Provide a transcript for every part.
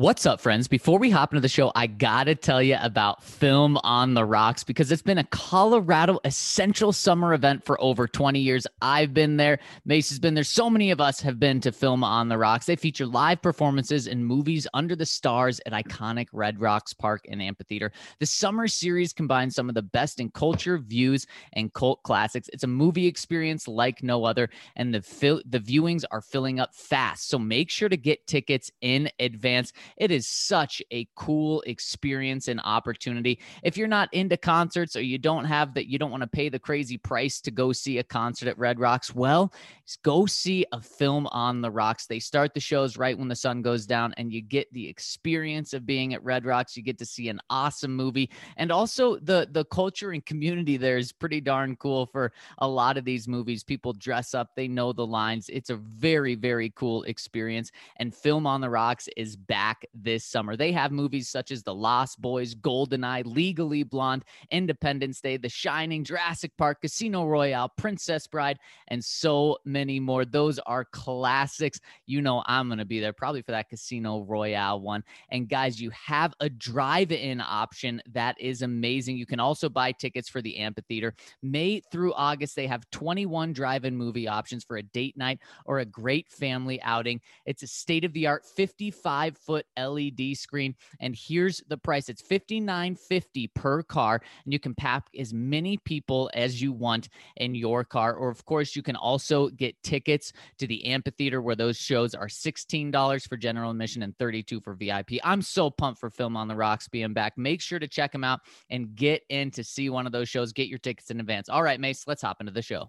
What's up, friends? Before we hop into the show, I got to tell you about Film on the Rocks because it's been a Colorado essential summer event for over 20 years. I've been there. Mace has been there. So many of us have been to Film on the Rocks. They feature live performances and movies under the stars at iconic Red Rocks Park and Amphitheater. The summer series combines some of the best in culture, views, and cult classics. It's a movie experience like no other, and the viewings are filling up fast. So make sure to get tickets in advance. It is such a cool experience and opportunity. If you're not into concerts or you don't want to pay the crazy price to go see a concert at Red Rocks, well, go see a Film on the Rocks. They start the shows right when the sun goes down, and you get the experience of being at Red Rocks. You get to see an awesome movie. And also the culture and community there is pretty darn cool for a lot of these movies. People dress up. They know the lines. It's a very, very cool experience. And Film on the Rocks is back this summer. They have movies such as The Lost Boys, GoldenEye, Legally Blonde, Independence Day, The Shining, Jurassic Park, Casino Royale, Princess Bride, and so many more. Those are classics. You know I'm going to be there probably for that Casino Royale one. And guys, you have a drive-in option that is amazing. You can also buy tickets for the amphitheater. May through August, they have 21 drive-in movie options for a date night or a great family outing. It's a state-of-the-art 55-foot LED screen, and here's the price. It's $59.50 per car, and you can pack as many people as you want in your car. Or of course, you can also get tickets to the amphitheater, where those shows are $16 for general admission and $32 for VIP. I'm so pumped for Film on the Rocks being back. Make sure to check them out and get in to see one of those shows. Get your tickets in advance. All right, Mace, let's hop into the show.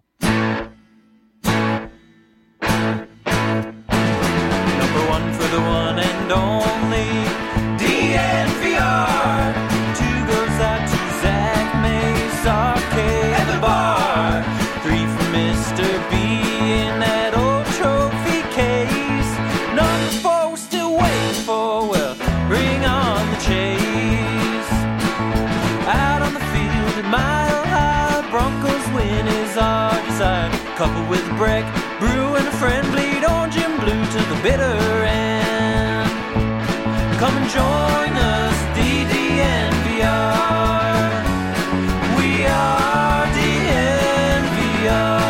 Number one for the one and only DNVR. Two goes out to Zach Mace, Arcade, and the bar. Three for Mr. B in that old trophy case. Number four we're still waiting for, well, bring on the chase. Out on the field at Mile High, Broncos win is our desire. Coupled with Breck, Brew, and a friend, bleed orange and blue to the bitter end. Come and join us, DNVR. We are DNVR.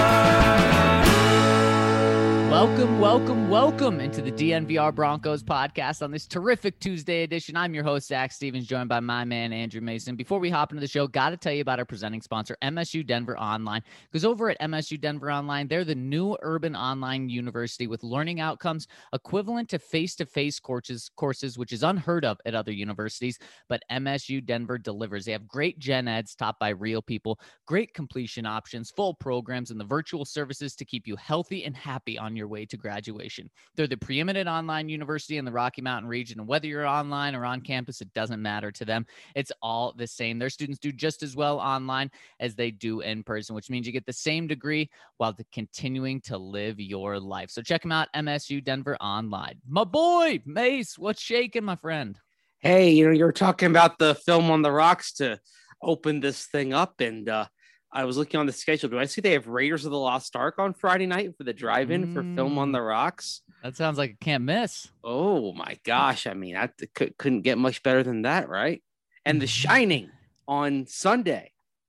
Welcome into the DNVR Broncos podcast on this terrific Tuesday edition. I'm your host, Zach Stevens, joined by my man, Andrew Mason. Before we hop into the show, got to tell you about our presenting sponsor, MSU Denver Online. Because over at MSU Denver Online, they're the new urban online university with learning outcomes equivalent to face-to-face courses, which is unheard of at other universities, but MSU Denver delivers. They have great gen eds taught by real people, great completion options, full programs, and the virtual services to keep you healthy and happy on your way to graduation. They're the preeminent online university in the Rocky Mountain region, and whether you're online or on campus, it doesn't matter to them. It's all the same. Their students do just as well online as they do in person, which means you get the same degree while continuing to live your life. So check them out, MSU Denver Online. My boy, Mace, what's shaking, my friend? Hey, you're talking about the Film on the Rocks to open this thing up, and I was looking on the schedule. Do I see they have Raiders of the Lost Ark on Friday night for the drive-in for Film on the Rocks? That sounds like a can't miss. Oh my gosh. I mean, I couldn't get much better than that, right? And The Shining on Sunday.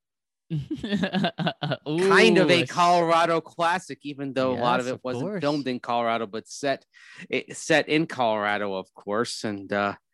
Kind of a Colorado classic, even though a lot of it wasn't filmed in Colorado, but set in Colorado, of course. And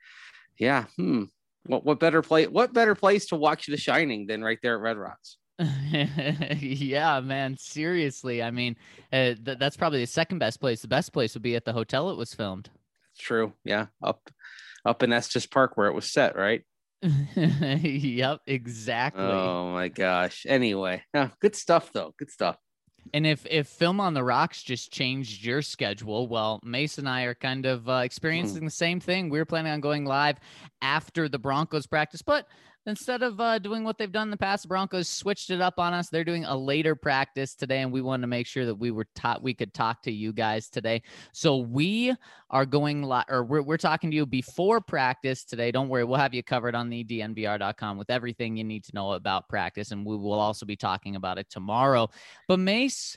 what better place to watch The Shining than right there at Red Rocks? Yeah, man, seriously. I mean, that's probably the second best place. The best place would be at the hotel it was filmed. True. Yeah. Up in Estes Park where it was set, right? Yep, exactly. Oh my gosh. Anyway, good stuff though. Good stuff. And if Film on the Rocks just changed your schedule, well, Mace and I are kind of experiencing the same thing. We're planning on going live after the Broncos practice, but instead of doing what they've done in the past, the Broncos switched it up on us. They're doing a later practice today, and we wanted to make sure that we could talk to you guys today. So we are going we're talking to you before practice today. Don't worry, we'll have you covered on the DNVR.com with everything you need to know about practice, and we will also be talking about it tomorrow. But Mace,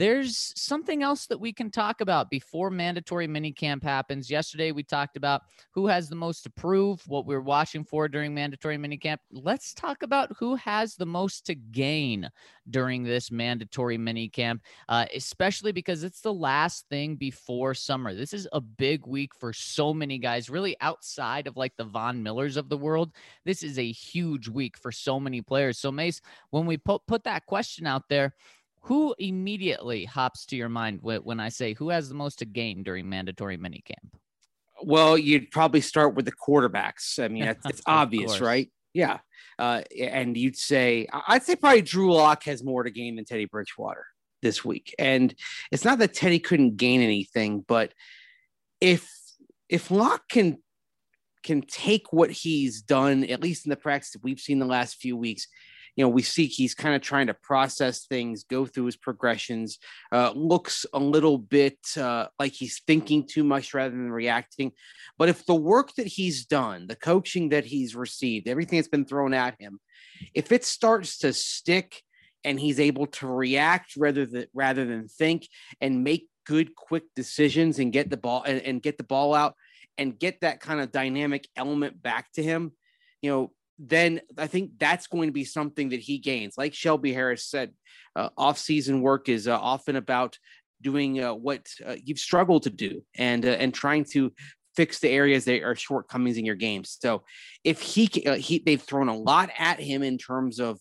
there's something else that we can talk about before mandatory minicamp happens. Yesterday, we talked about who has the most to prove, what we're watching for during mandatory minicamp. Let's talk about who has the most to gain during this mandatory minicamp, especially because it's the last thing before summer. This is a big week for so many guys, really outside of like the Von Millers of the world. This is a huge week for so many players. So Mace, when we put that question out there, who immediately hops to your mind when I say who has the most to gain during mandatory minicamp? Well, you'd probably start with the quarterbacks. I mean, it's obvious, right? Yeah. And I'd say probably Drew Lock has more to gain than Teddy Bridgewater this week. And it's not that Teddy couldn't gain anything, but if Lock can take what he's done, at least in the practice that we've seen the last few weeks, we see he's kind of trying to process things, go through his progressions, looks a little bit like he's thinking too much rather than reacting. But if the work that he's done, the coaching that he's received, everything that's been thrown at him, if it starts to stick and he's able to react rather than think and make good, quick decisions and get the ball and get the ball out and get that kind of dynamic element back to him, then I think that's going to be something that he gains. Like Shelby Harris said, off-season work is often about doing what you've struggled to do and trying to fix the areas that are shortcomings in your games. So if they've thrown a lot at him in terms of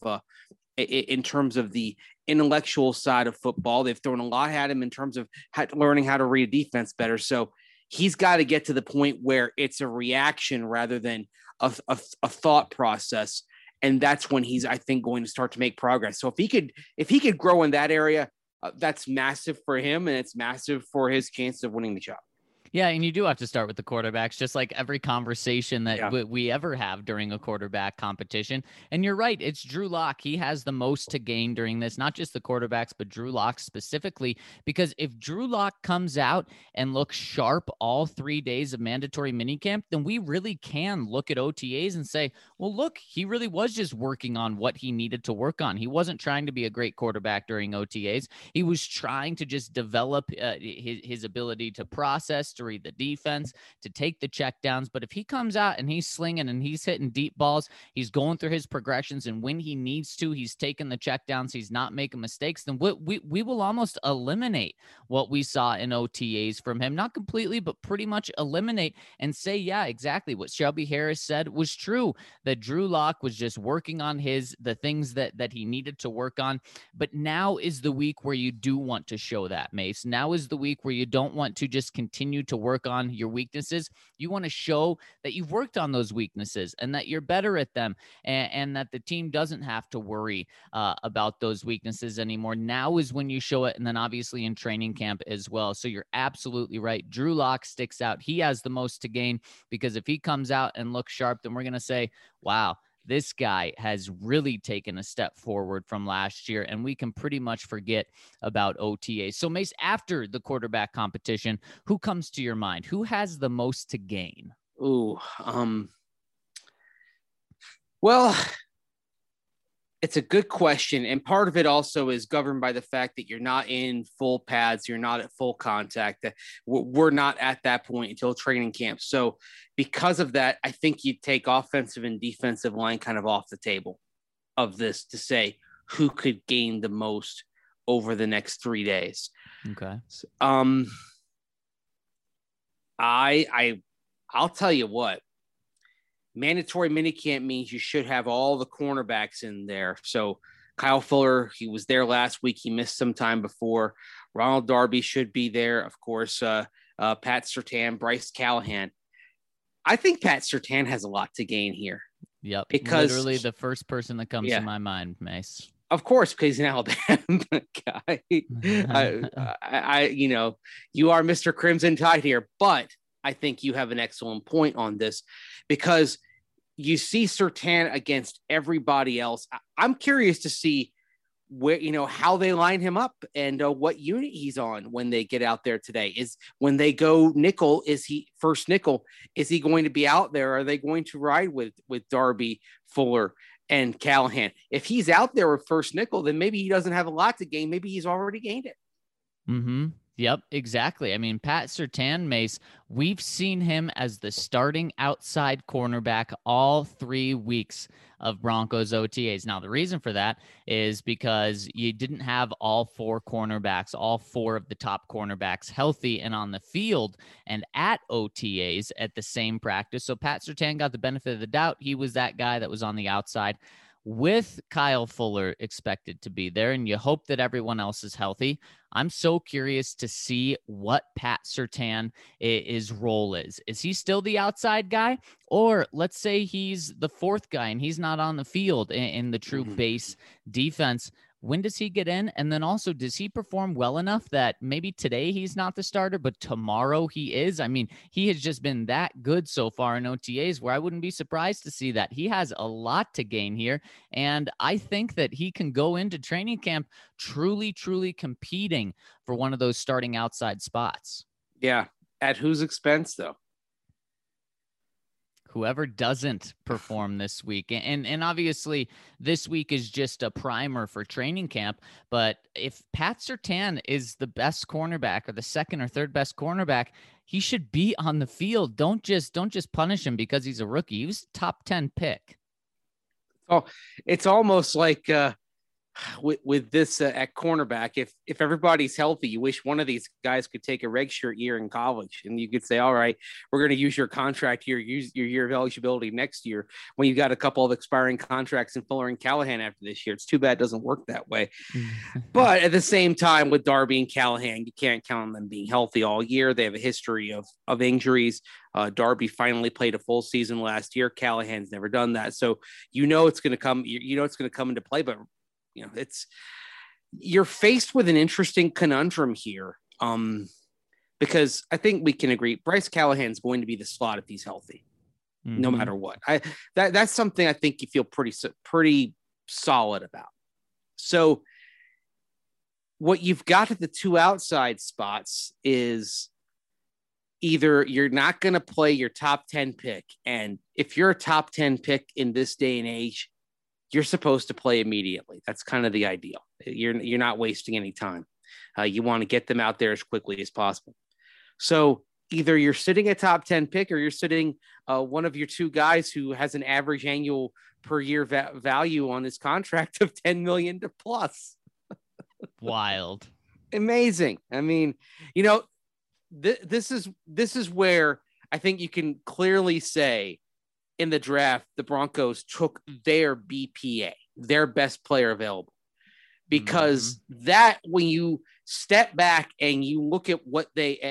the intellectual side of football. They've thrown a lot at him in terms of learning how to read a defense better. So he's got to get to the point where it's a reaction rather than a thought process. And that's when he's, I think, going to start to make progress. So if he could grow in that area, that's massive for him. And it's massive for his chance of winning the job. Yeah, and you do have to start with the quarterbacks, just like every conversation that we ever have during a quarterback competition. And you're right, it's Drew Lock. He has the most to gain during this, not just the quarterbacks, but Drew Lock specifically, because if Drew Lock comes out and looks sharp all 3 days of mandatory minicamp, then we really can look at OTAs and say, well, look, he really was just working on what he needed to work on. He wasn't trying to be a great quarterback during OTAs. He was trying to just develop his ability to process, to read the defense, to take the checkdowns. But if he comes out and he's slinging and he's hitting deep balls, he's going through his progressions, and when he needs to, he's taking the checkdowns, he's not making mistakes, then we will almost eliminate what we saw in OTAs from him. Not completely, but pretty much eliminate and say, yeah, exactly what Shelby Harris said was true, that Drew Lock was just working on the things that he needed to work on. But now is the week where you do want to show that, Mace. Now is the week where you don't want to just continue to work on your weaknesses. You want to show that you've worked on those weaknesses and that you're better at them, and that the team doesn't have to worry about those weaknesses anymore. Now is when you show it, and then obviously in training camp as well. So you're absolutely right. Drew Lock sticks out. He has the most to gain, because if he comes out and looks sharp, then we're going to say, wow, this guy has really taken a step forward from last year, and we can pretty much forget about OTAs. So Mace, after the quarterback competition, who comes to your mind? Who has the most to gain? Well, it's a good question. And part of it also is governed by the fact that you're not in full pads. You're not at full contact. We're not at that point until training camp. So because of that, I think you take offensive and defensive line kind of off the table of this to say who could gain the most over the next 3 days. Okay. I'll tell you what. Mandatory minicamp means you should have all the cornerbacks in there. So Kyle Fuller, he was there last week. He missed some time before. Ronald Darby should be there. Of course, Pat Surtain, Bryce Callahan. I think Pat Surtain has a lot to gain here. Yep. Because literally the first person that comes to my mind, Mace. Of course, because he's an Alabama guy. You are Mr. Crimson Tide here, but I think you have an excellent point on this, because you see Surtain against everybody else. I'm curious to see where, how they line him up and what unit he's on when they get out there today. Is when they go nickel, is he first nickel? Is he going to be out there? Are they going to ride with Darby, Fuller, and Callahan? If he's out there with first nickel, then maybe he doesn't have a lot to gain. Maybe he's already gained it. Mm-hmm. Yep, exactly. I mean, Pat Surtain, Mace, we've seen him as the starting outside cornerback all 3 weeks of Broncos OTAs. Now, the reason for that is because you didn't have all four cornerbacks, all four of the top cornerbacks healthy and on the field and at OTAs at the same practice. So Pat Surtain got the benefit of the doubt. He was that guy that was on the outside with Kyle Fuller expected to be there, and you hope that everyone else is healthy. I'm so curious to see what Pat Surtain his role is. Is he still the outside guy? Or let's say he's the fourth guy and he's not on the field in the true base defense. When does he get in? And then also, does he perform well enough that maybe today he's not the starter, but tomorrow he is? I mean, he has just been that good so far in OTAs where I wouldn't be surprised to see that. He has a lot to gain here. And I think that he can go into training camp truly, truly competing for one of those starting outside spots. Yeah. At whose expense, though? Whoever doesn't perform this week. And obviously this week is just a primer for training camp. But if Pat Surtain is the best cornerback or the second or third best cornerback, he should be on the field. Don't just punish him because he's a rookie. He was top 10 pick. Oh, it's almost like with this at cornerback, if everybody's healthy, you wish one of these guys could take a redshirt year in college, and you could say, all right, we're going to use your contract year, use your year of eligibility next year when you got a couple of expiring contracts in Fuller and Callahan after this year. It's too bad it doesn't work that way. But at the same time, with Darby and Callahan, you can't count on them being healthy all year. They have a history of injuries. Darby finally played a full season last year. Callahan's never done that. So it's going to come, it's going to come into play, but you're faced with an interesting conundrum here. Because I think we can agree Bryce Callahan's going to be the slot if he's healthy, no matter what. That's something I think you feel pretty solid about. So what you've got at the two outside spots is either you're not going to play your top 10 pick. And if you're a top 10 pick in this day and age, you're supposed to play immediately. That's kind of the ideal. You're not wasting any time. You want to get them out there as quickly as possible. So either you're sitting a top 10 pick or you're sitting one of your two guys who has an average annual per year value on his contract of 10 million to plus. Wild. Amazing. I mean, this is where I think you can clearly say in the draft, the Broncos took their BPA, their best player available, because that when you step back and you look at what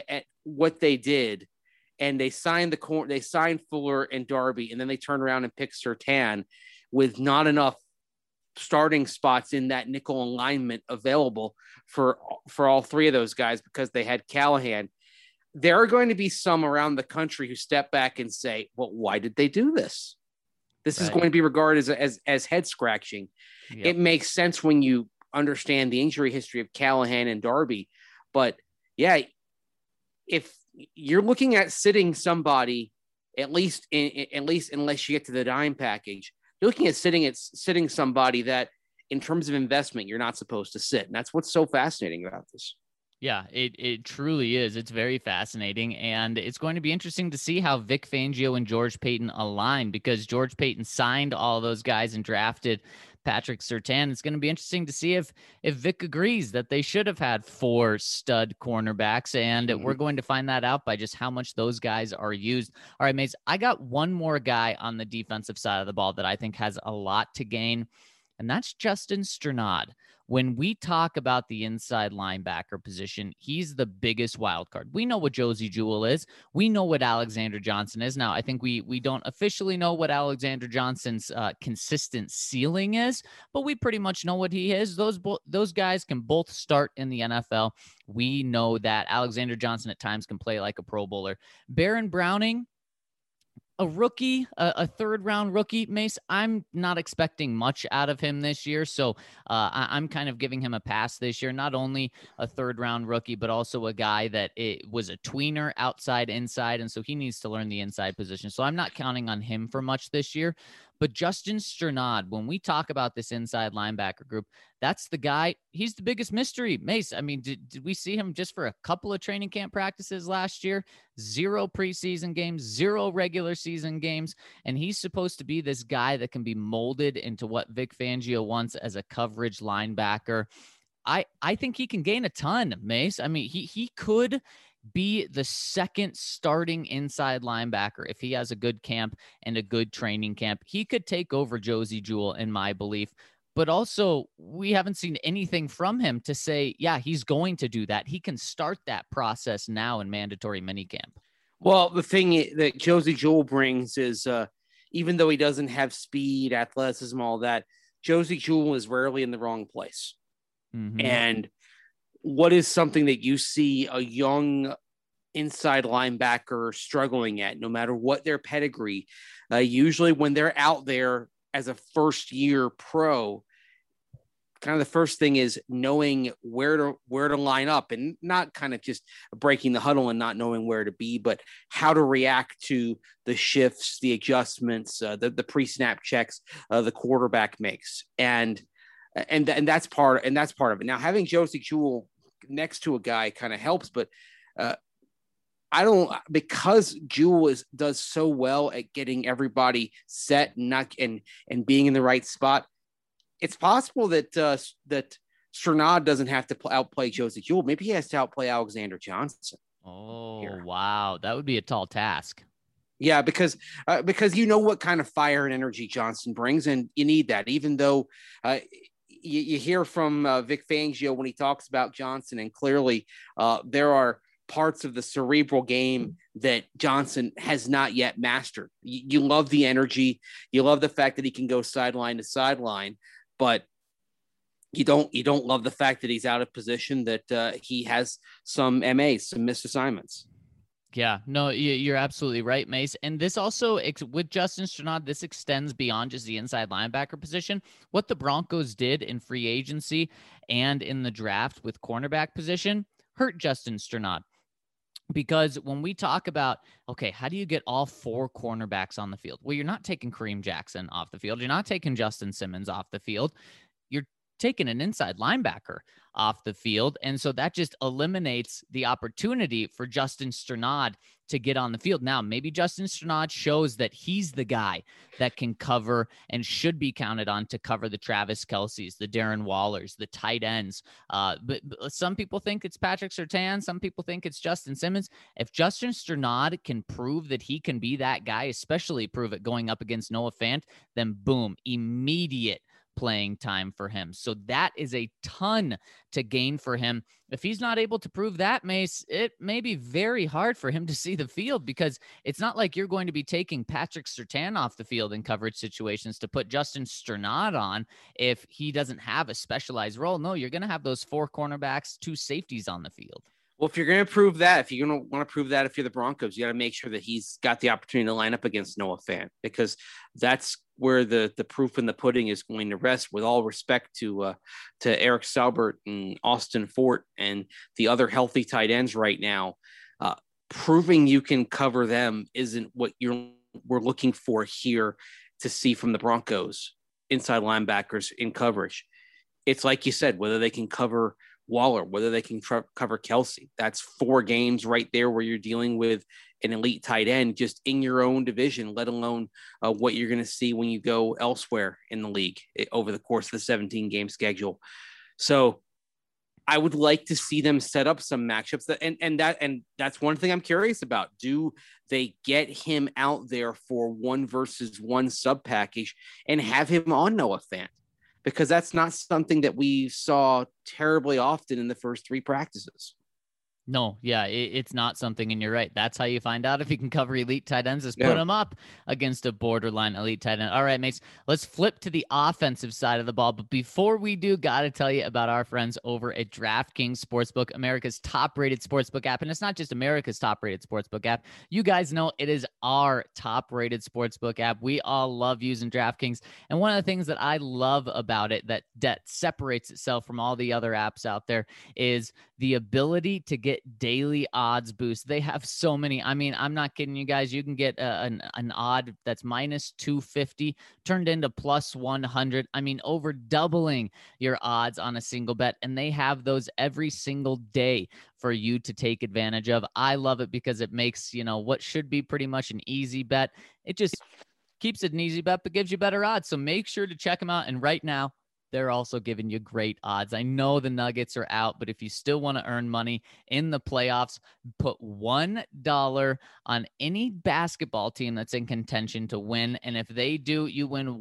they did, and they signed Fuller and Darby, and then they turn around and pick Surtain with not enough starting spots in that nickel alignment available for all three of those guys because they had Callahan. There are going to be some around the country who step back and say, well, why did they do this? This is going to be regarded as head scratching. Yep. It makes sense when you understand the injury history of Callahan and Darby. But yeah, if you're looking at sitting somebody, at least unless you get to the dime package, you're looking at sitting somebody that in terms of investment, you're not supposed to sit. And that's what's so fascinating about this. Yeah, it truly is. It's very fascinating, and it's going to be interesting to see how Vic Fangio and George Paton align, because George Paton signed all those guys and drafted Patrick Surtain. It's going to be interesting to see if Vic agrees that they should have had 4 stud cornerbacks, and we're going to find that out by just how much those guys are used. All right, Mace, I got one more guy on the defensive side of the ball that I think has a lot to gain, and that's Justin Strnad. When we talk about the inside linebacker position, he's the biggest wild card. We know what Josie Jewell is. We know what Alexander Johnson is. Now, I think we don't officially know what Alexander Johnson's consistent ceiling is, but we pretty much know what he is. Those guys can both start in the NFL. We know that Alexander Johnson at times can play like a Pro Bowler. Baron Browning, a rookie, a third-round rookie, Mace, I'm not expecting much out of him this year, so I'm kind of giving him a pass this year. Not only a third-round rookie, but also a guy that it was a tweener outside, inside, and so he needs to learn the inside position. So I'm not counting on him for much this year. But Justin Strnad, when we talk about this inside linebacker group, that's the guy. He's the biggest mystery. Mace, I mean, did we see him just for a couple of training camp practices last year? 0 preseason games, 0 regular season games. And he's supposed to be this guy that can be molded into what Vic Fangio wants as a coverage linebacker. I think he can gain a ton, Mace. I mean, he could be the second starting inside linebacker if he has a good camp and a good training camp. He could take over Josey Jewell, in my belief. But also, we haven't seen anything from him to say, yeah, he's going to do that. He can start that process now in mandatory minicamp. Well, the thing that Josey Jewell brings is even though he doesn't have speed, athleticism, all that, Josey Jewell is rarely in the wrong place. Mm-hmm. And what is something that you see a young inside linebacker struggling at, no matter what their pedigree? Usually when they're out there as a first-year pro, kind of the first thing is knowing where to line up, and not kind of just breaking the huddle and not knowing where to be, but how to react to the shifts, the adjustments, the pre-snap checks the quarterback makes. And that's part of it. Now, having Josey Jewell next to a guy kind of helps, but because Jewell does so well at getting everybody set and being in the right spot. It's possible that Strnad doesn't have to outplay Josey Jewell. Maybe he has to outplay Alexander Johnson. Oh, wow, that would be a tall task. Yeah, because you know what kind of fire and energy Johnson brings, and you need that. Even though you hear from Vic Fangio when he talks about Johnson, and clearly there are parts of the cerebral game that Johnson has not yet mastered. You love the energy, you love the fact that he can go sideline to sideline, but you don't love the fact that he's out of position, that he has some MAs, some missed assignments. Yeah, no, you're absolutely right, Mace. And this also, with Justin Strnad, this extends beyond just the inside linebacker position. What the Broncos did in free agency and in the draft with cornerback position hurt Justin Strnad. Because when we talk about, okay, how do you get all 4 cornerbacks on the field? Well, you're not taking Kareem Jackson off the field. You're not taking Justin Simmons off the field. You're taking an inside linebacker off the field. And so that just eliminates the opportunity for Justin Strnad to get on the field. Now, maybe Justin Strnad shows that he's the guy that can cover and should be counted on to cover the Travis Kelce's, the Darren Wallers, the tight ends. But some people think it's Patrick Surtain. Some people think it's Justin Simmons. If Justin Strnad can prove that he can be that guy, especially prove it going up against Noah Fant, then boom, immediate playing time for him. So that is a ton to gain for him. If he's not able to prove that, Mace, it may be very hard for him to see the field, because it's not like you're going to be taking Patrick Surtain off the field in coverage situations to put Justin Strnad on if he doesn't have a specialized role. No, you're going to have those 4 cornerbacks, 2 safeties on the field. Well, if you're going to prove that, if you're going to want to prove that, if you're the Broncos, you got to make sure that he's got the opportunity to line up against Noah Fant, because that's where the proof in the pudding is going to rest. With all respect to Eric Saubert and Austin Fort and the other healthy tight ends right now, proving you can cover them isn't what we're looking for here to see from the Broncos inside linebackers in coverage. It's like you said, whether they can cover Waller, whether they can cover Kelce. That's 4 games right there where you're dealing with an elite tight end just in your own division, let alone what you're going to see when you go elsewhere in the league over the course of the 17-game schedule. So I would like to see them set up some matchups and that's one thing I'm curious about. Do they get him out there for 1-versus-1 sub package and have him on Noah Fant? Because that's not something that we saw terribly often in the first 3 practices. No, yeah, it's not something, and you're right. That's how you find out if you can cover elite tight ends, is put them up against a borderline elite tight end. All right, mates, let's flip to the offensive side of the ball. But before we do, got to tell you about our friends over at DraftKings Sportsbook, America's top-rated sportsbook app. And it's not just America's top-rated sportsbook app. You guys know it is our top-rated sportsbook app. We all love using DraftKings. And one of the things that I love about it that separates itself from all the other apps out there is the ability to get get daily odds boosts. They have so many. I mean, I'm not kidding you guys. You can get an odd that's minus 250 turned into plus 100. I mean, over doubling your odds on a single bet. And they have those every single day for you to take advantage of. I love it because it makes, what should be pretty much an easy bet. It just keeps it an easy bet, but gives you better odds. So make sure to check them out. And right now, they're also giving you great odds. I know the Nuggets are out, but if you still want to earn money in the playoffs, put $1 on any basketball team that's in contention to win. And if they do, you win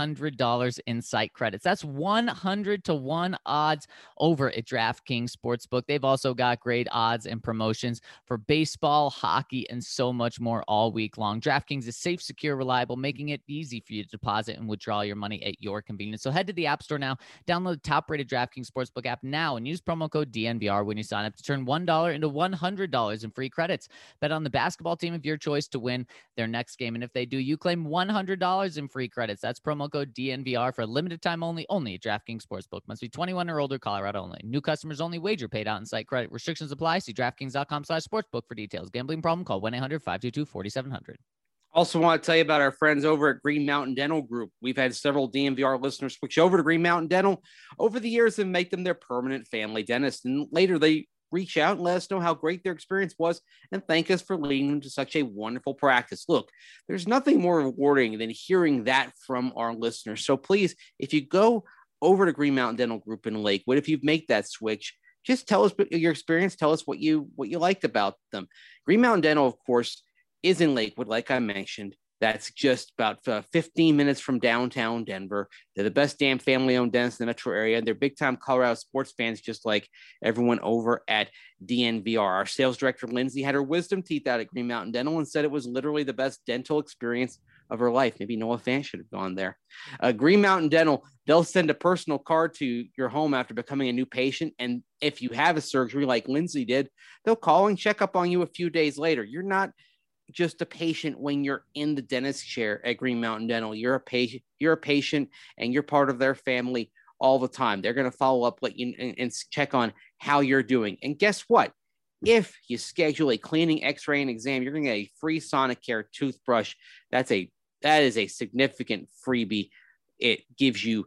$100 in site credits. That's 100 to 1 odds over at DraftKings Sportsbook. They've also got great odds and promotions for baseball, hockey, and so much more all week long. DraftKings is safe, secure, reliable, making it easy for you to deposit and withdraw your money at your convenience. So head to the App Store now, download the top-rated DraftKings Sportsbook app now, and use promo code DNVR when you sign up to turn $1 into $100 in free credits. Bet on the basketball team of your choice to win their next game, and if they do, you claim $100 in free credits. That's promo code DNVR for a limited time only at DraftKings Sportsbook. Must be 21 or older, Colorado only. New customers only. Wager paid out in site credit. Restrictions apply. See DraftKings.com/sportsbook for details. Gambling problem? Call 1-800-522-4700. Also want to tell you about our friends over at Green Mountain Dental Group. We've had several DNVR listeners switch over to Green Mountain Dental over the years and make them their permanent family dentist. And later they reach out and let us know how great their experience was and thank us for leading them to such a wonderful practice. Look, there's nothing more rewarding than hearing that from our listeners. So please, if you go over to Green Mountain Dental Group in Lakewood, if you make that switch, just tell us your experience. Tell us what you liked about them. Green Mountain Dental, of course, is in Lakewood, like I mentioned. That's just about 15 minutes from downtown Denver. They're the best damn family-owned dentist in the metro area. They're big-time Colorado sports fans, just like everyone over at DNVR. Our sales director, Lindsay, had her wisdom teeth out at Green Mountain Dental and said it was literally the best dental experience of her life. Maybe Noah Fant should have gone there. Green Mountain Dental, they'll send a personal card to your home after becoming a new patient. And if you have a surgery like Lindsay did, they'll call and check up on you a few days later. You're not just a patient when you're in the dentist chair at Green Mountain Dental. You're a patient and you're part of their family all the time. They're going to follow up and check on how you're doing. And guess what? If you schedule a cleaning, x-ray, and exam, you're going to get a free Sonicare toothbrush. That is a significant freebie. It gives you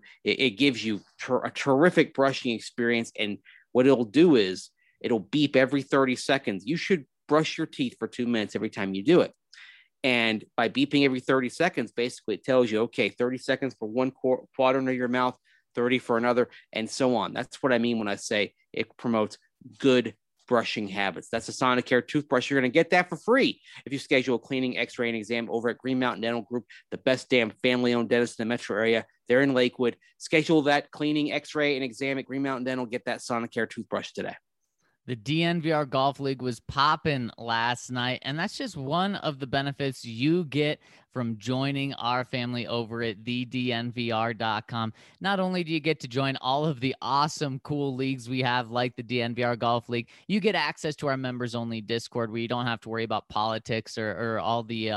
a terrific brushing experience. And what it'll do is it'll beep every 30 seconds. You should brush your teeth for 2 minutes every time you do it. And by beeping every 30 seconds, basically it tells you, okay, 30 seconds for one quadrant of your mouth, 30 for another, and so on. That's what I mean when I say it promotes good brushing habits. That's a Sonicare toothbrush. You're going to get that for free if you schedule a cleaning, x-ray, and exam over at Green Mountain Dental Group, the best damn family-owned dentist in the metro area. They're in Lakewood. Schedule that cleaning, x-ray, and exam at Green Mountain Dental. Get that Sonicare toothbrush today. The DNVR Golf League was popping last night, and that's just one of the benefits you get from joining our family over at thednvr.com. Not only do you get to join all of the awesome, cool leagues we have, like the DNVR Golf League, you get access to our members-only Discord where you don't have to worry about politics or all the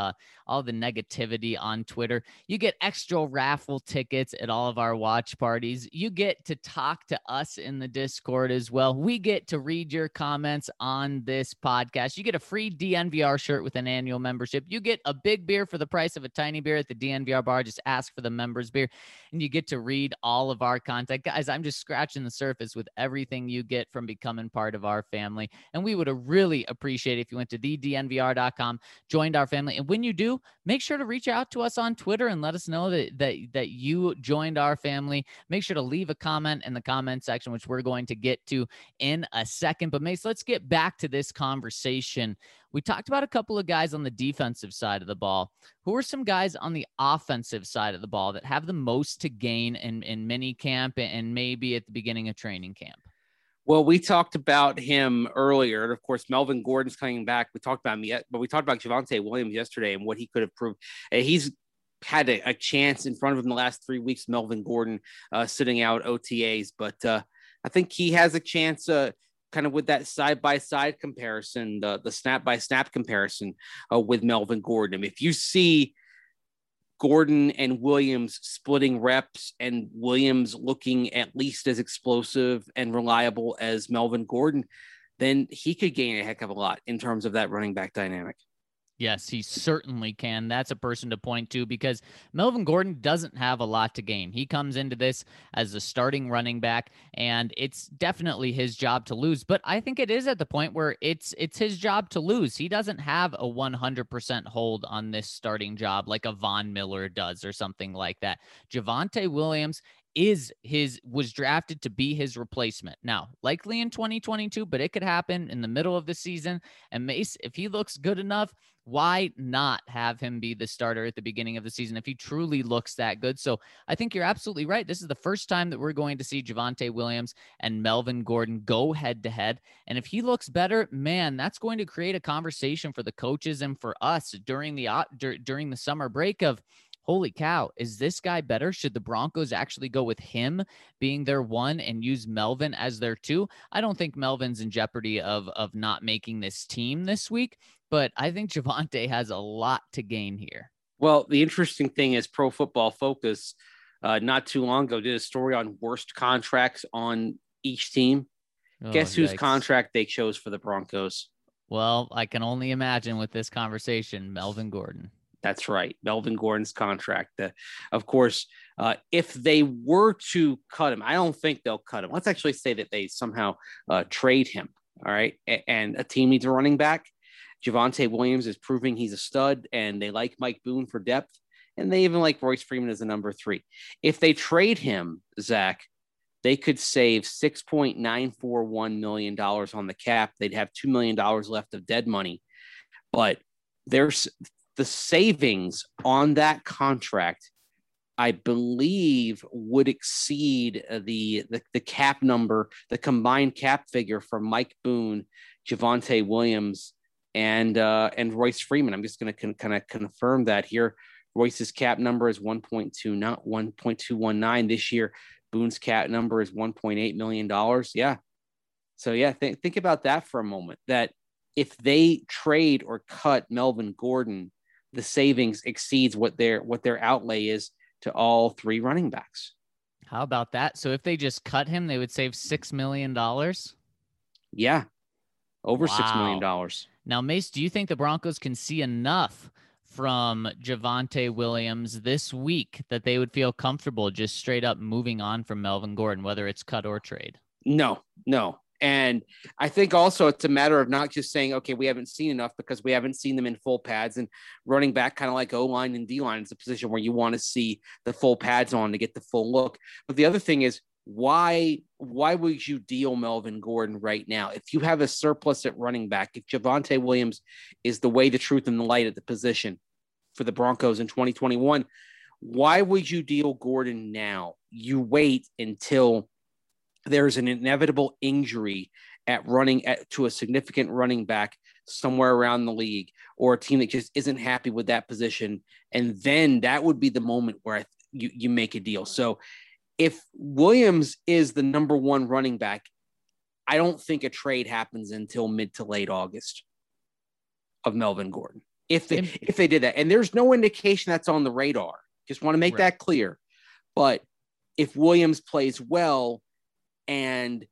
negativity on Twitter. You get extra raffle tickets at all of our watch parties. You get to talk to us in the Discord as well. We get to read your comments on this podcast. You get a free DNVR shirt with an annual membership. You get a big beer for the price of a tiny beer at the DNVR bar. Just ask for the members beer, and you get to read all of our content. Guys, I'm just scratching the surface with everything you get from becoming part of our family, and we would really appreciate it if you went to thednvr.com, joined our family, and when you do, make sure to reach out to us on Twitter and let us know that you joined our family. Make sure to leave a comment in the comment section, which we're going to get to in a second. But Mace, let's get back to this conversation. We talked about a couple of guys on the defensive side of the ball. Who are some guys on the offensive side of the ball that have the most to gain in mini camp and maybe at the beginning of training camp? Well, we talked about him earlier. Of course, Melvin Gordon's coming back. We talked about him yet, but we talked about Javonte Williams yesterday and what he could have proved. He's had a chance in front of him the last 3 weeks, Melvin Gordon sitting out OTAs. But I think he has a chance kind of with that side-by-side comparison, the snap-by-snap comparison with Melvin Gordon. I mean, if you see Gordon and Williams splitting reps and Williams looking at least as explosive and reliable as Melvin Gordon, then he could gain a heck of a lot in terms of that running back dynamic. Yes, he certainly can. That's a person to point to because Melvin Gordon doesn't have a lot to gain. He comes into this as a starting running back, and it's definitely his job to lose. But I think it is at the point where it's his job to lose. He doesn't have a 100% hold on this starting job like a Von Miller does or something like that. Javonte Williams was drafted to be his replacement. Now, likely in 2022, but it could happen in the middle of the season. And Mace, if he looks good enough, why not have him be the starter at the beginning of the season if he truly looks that good? So I think you're absolutely right. This is the first time that we're going to see Javonte Williams and Melvin Gordon go head to head. And if he looks better, man, that's going to create a conversation for the coaches and for us during the summer break of, holy cow, is this guy better? Should the Broncos actually go with him being their one and use Melvin as their two? I don't think Melvin's in jeopardy of not making this team this week, but I think Javonte has a lot to gain here. Well, the interesting thing is Pro Football Focus not too long ago did a story on worst contracts on each team. Guess whose contract they chose for the Broncos? Well, I can only imagine with this conversation, Melvin Gordon. That's right. Melvin Gordon's contract. Of course, if they were to cut him, I don't think they'll cut him. Let's actually say that they somehow trade him. All right. And a team needs a running back. Javonte Williams is proving he's a stud, and they like Mike Boone for depth. And they even like Royce Freeman as a number 3. If they trade him, Zach, they could save $6.941 million on the cap. They'd have $2 million left of dead money. But there's the savings on that contract, I believe, would exceed the cap number, the combined cap figure for Mike Boone, Javonte Williams, and Royce Freeman. I'm just going to kind of confirm that here. Royce's cap number is 1.2, not 1.219 this year. Boone's cap number is $1.8 million. Yeah. So yeah, think about that for a moment, that if they trade or cut Melvin Gordon, the savings exceeds what their outlay is to all 3 running backs. How about that? So if they just cut him, they would save $6 million. Yeah. Over $6 million. Now, Mace, do you think the Broncos can see enough from Javonte Williams this week that they would feel comfortable just straight up moving on from Melvin Gordon, whether it's cut or trade? No. And I think also it's a matter of not just saying, okay, we haven't seen enough, because we haven't seen them in full pads, and running back, kind of like O-line and D-line, is a position where you want to see the full pads on to get the full look. But the other thing is, why would you deal Melvin Gordon right now? If you have a surplus at running back, if Javonte Williams is the way, the truth, and the light at the position for the Broncos in 2021, why would you deal Gordon now? You wait until there's an inevitable injury to a significant running back somewhere around the league, or a team that just isn't happy with that position. And then that would be the moment where you make a deal. So if Williams is the number 1 running back, I don't think a trade happens until mid to late August of Melvin Gordon. If they did that, and there's no indication that's on the radar, just want to make that clear. But if Williams plays well, and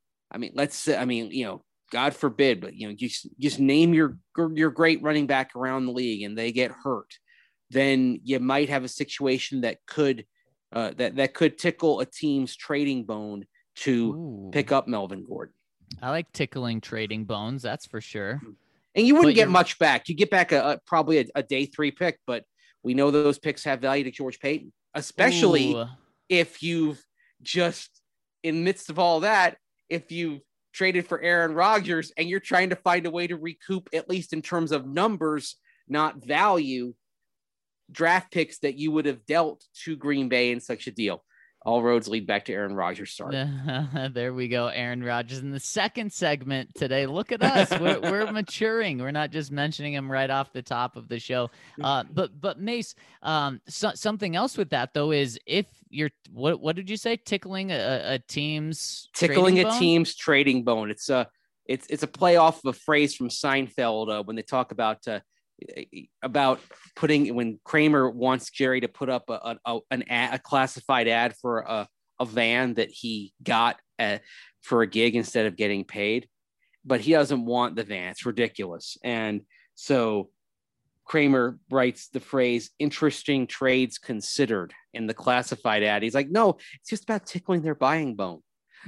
God forbid, but just name your great running back around the league and they get hurt, then you might have a situation that could tickle a team's trading bone to pick up Melvin Gordon. I like tickling trading bones, that's for sure. And you wouldn't get much back. You get back probably a day 3 pick, but we know those picks have value to George Paton, especially if you've just, in the midst of all that, if you traded for Aaron Rodgers and you're trying to find a way to recoup, at least in terms of numbers, not value, draft picks that you would have dealt to Green Bay in such a deal. All roads lead back to Aaron Rodgers. Sorry. There we go. Aaron Rodgers in the second segment today. Look at us. We're maturing. We're not just mentioning him right off the top of the show. But Mace, something else with that though is if you're, what did you say? Tickling a team's trading bone. It's a play off of a phrase from Seinfeld when they talk about putting, when Kramer wants Jerry to put up a classified ad for a van that he got for a gig instead of getting paid. but he doesn't want the van. It's ridiculous. And so Kramer writes the phrase "interesting trades considered" in the classified ad. He's like, no, it's just about tickling their buying bone.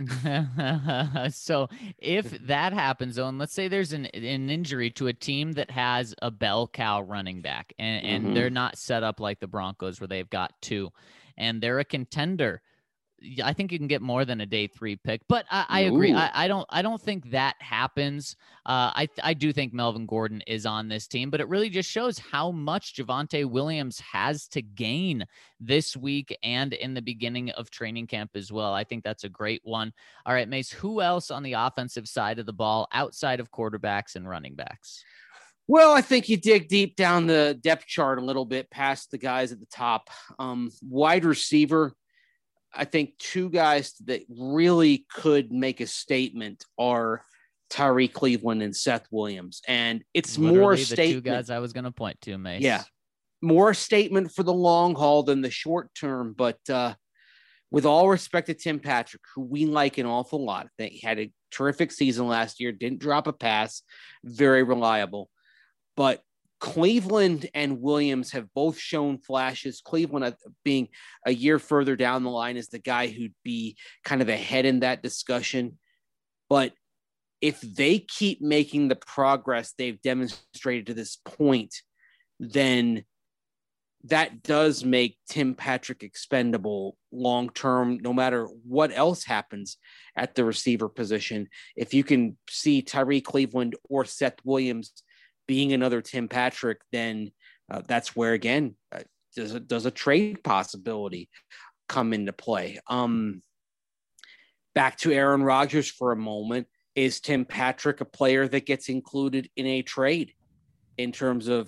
So if that happens, though, and let's say there's an injury to a team that has a bell cow running back, and they're not set up like the Broncos where they've got two, and they're a contender, I think you can get more than a day 3 pick, but I agree. I don't think that happens. I do think Melvin Gordon is on this team, but it really just shows how much Javonte Williams has to gain this week and in the beginning of training camp as well. I think that's a great one. All right, Mace, who else on the offensive side of the ball outside of quarterbacks and running backs? Well, I think you dig deep down the depth chart a little bit past the guys at the top. Wide receiver, I think two guys that really could make a statement are Tyree Cleveland and Seth Williams. And it's literally more the statement. Two guys I was going to point to, Mace. Yeah. More statement for the long haul than the short term. But with all respect to Tim Patrick, who we like an awful lot, they had a terrific season last year, didn't drop a pass, very reliable. But Cleveland and Williams have both shown flashes. Cleveland being a year further down the line is the guy who'd be kind of ahead in that discussion. But if they keep making the progress they've demonstrated to this point, then that does make Tim Patrick expendable long-term, no matter what else happens at the receiver position. If you can see Tyree Cleveland or Seth Williams being another Tim Patrick, then that's where, again, does a trade possibility come into play. Back to Aaron Rodgers for a moment. Is Tim Patrick a player that gets included in a trade in terms of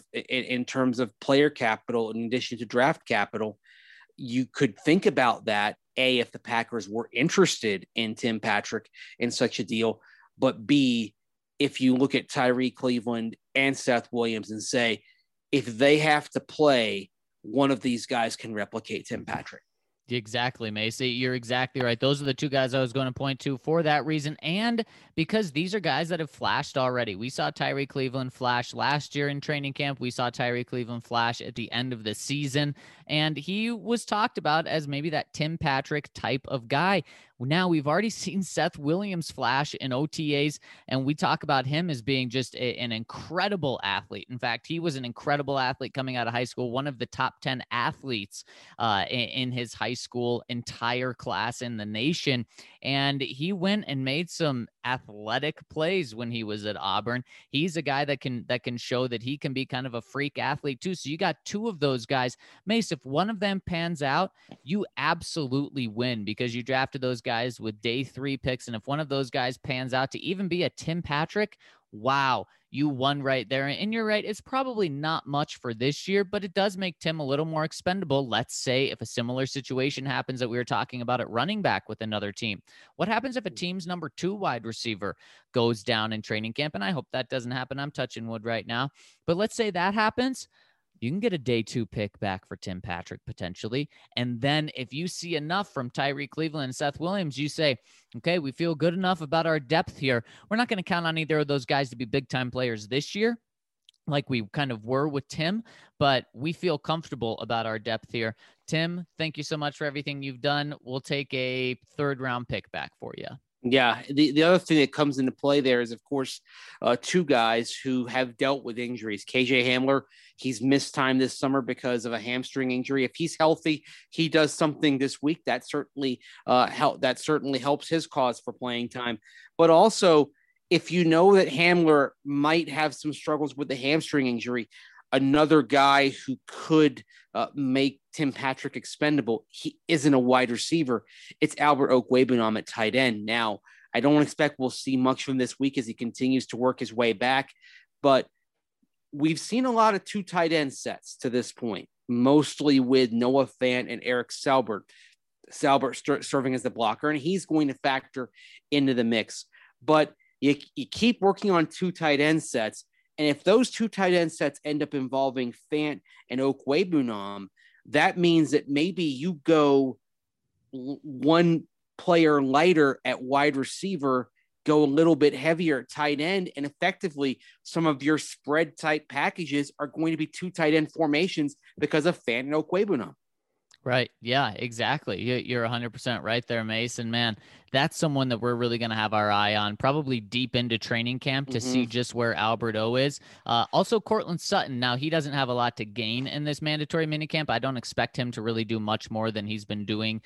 player capital in addition to draft capital? You could think about that, A, if the Packers were interested in Tim Patrick in such a deal, but B, if you look at Tyree Cleveland and Seth Williams and say, if they have to play, one of these guys can replicate Tim Patrick. Exactly, Macy. You're exactly right. Those are the two guys I was going to point to for that reason. And because these are guys that have flashed already. We saw Tyree Cleveland flash last year in training camp. We saw Tyree Cleveland flash at the end of the season. And he was talked about as maybe that Tim Patrick type of guy. Now we've already seen Seth Williams flash in OTAs, and we talk about him as being just an incredible athlete. In fact, he was an incredible athlete coming out of high school, one of the top 10 athletes in his high school entire class in the nation. And he went and made some athletic plays when he was at Auburn. He's a guy that can show that he can be kind of a freak athlete too. So you got two of those guys. Mace, if one of them pans out, you absolutely win because you drafted those guys with day 3 picks. And if one of those guys pans out to even be a Tim Patrick, wow, you won right there. And you're right, it's probably not much for this year, but it does make Tim a little more expendable. Let's say if a similar situation happens that we were talking about at running back with another team. What happens if a team's number 2 wide receiver goes down in training camp? And I hope that doesn't happen. I'm touching wood right now. But let's say that happens. You can get a day 2 pick back for Tim Patrick potentially. And then if you see enough from Tyree Cleveland and Seth Williams, you say, okay, we feel good enough about our depth here. We're not going to count on either of those guys to be big time players this year, like we kind of were with Tim, but we feel comfortable about our depth here. Tim, thank you so much for everything you've done. We'll take a 3rd round pick back for you. Yeah, the other thing that comes into play there is, of course, 2 guys who have dealt with injuries. KJ Hamler, he's missed time this summer because of a hamstring injury. If he's healthy, he does something this week that certainly helps his cause for playing time. But also, if you know that Hamler might have some struggles with the hamstring injury, another guy who could make Tim Patrick expendable, he isn't a wide receiver. It's Albert Okwuegbunam at tight end. Now, I don't expect we'll see much from this week as he continues to work his way back, but we've seen a lot of 2 tight end sets to this point, mostly with Noah Fant and Eric Salbert. Salbert serving as the blocker, and he's going to factor into the mix. But you keep working on 2 tight end sets, and if those 2 tight end sets end up involving Fant and Okwuegbunam, that means that maybe you go one player lighter at wide receiver go a little bit heavier at tight end, and effectively some of your spread type packages are going to be 2 tight end formations because of Fant and Okwebunam. Right. Yeah, exactly. You're 100% right there, Mason. Man, that's someone that we're really going to have our eye on, probably deep into training camp to see just where Albert O is. Also, Cortland Sutton. Now, he doesn't have a lot to gain in this mandatory minicamp. I don't expect him to really do much more than he's been doing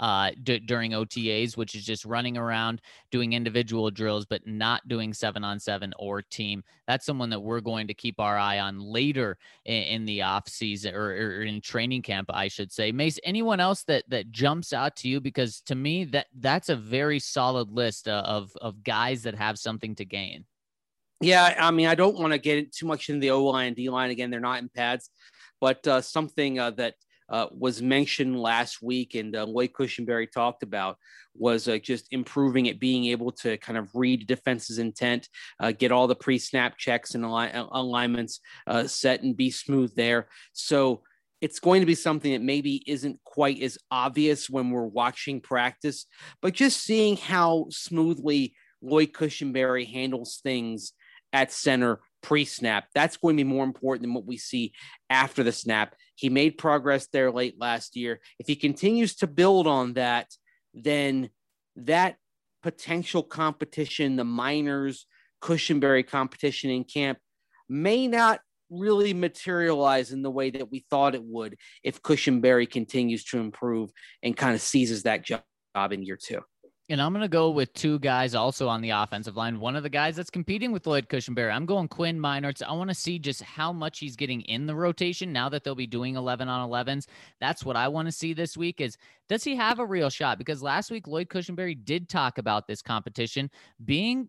during OTAs, which is just running around, doing individual drills, but not doing 7-on-7 or team. That's someone that we're going to keep our eye on later in the off season or in training camp, I should say. Mason, anyone else that jumps out to you? Because to me, that's a very solid list of guys that have something to gain. Yeah, I mean, I don't want to get too much into the O-line and D-line. Again, they're not in pads, but something that was mentioned last week and Lloyd Cushenberry talked about was just improving it, being able to kind of read defense's intent, get all the pre-snap checks and alignments set and be smooth there. So it's going to be something that maybe isn't quite as obvious when we're watching practice, but just seeing how smoothly Lloyd Cushenberry handles things at center pre-snap, that's going to be more important than what we see after the snap. He made progress there late last year. If he continues to build on that, then that potential competition, the Miners Cushenberry competition in camp, may not really materialize in the way that we thought it would if Cushenberry continues to improve and kind of seizes that job in year 2. And I'm going to go with 2 guys also on the offensive line. One of the guys that's competing with Lloyd Cushenberry, I'm going Quinn Meinerz. I want to see just how much he's getting in the rotation now that they'll be doing 11-on-11s. That's what I want to see this week is, does he have a real shot? Because last week, Lloyd Cushenberry did talk about this competition being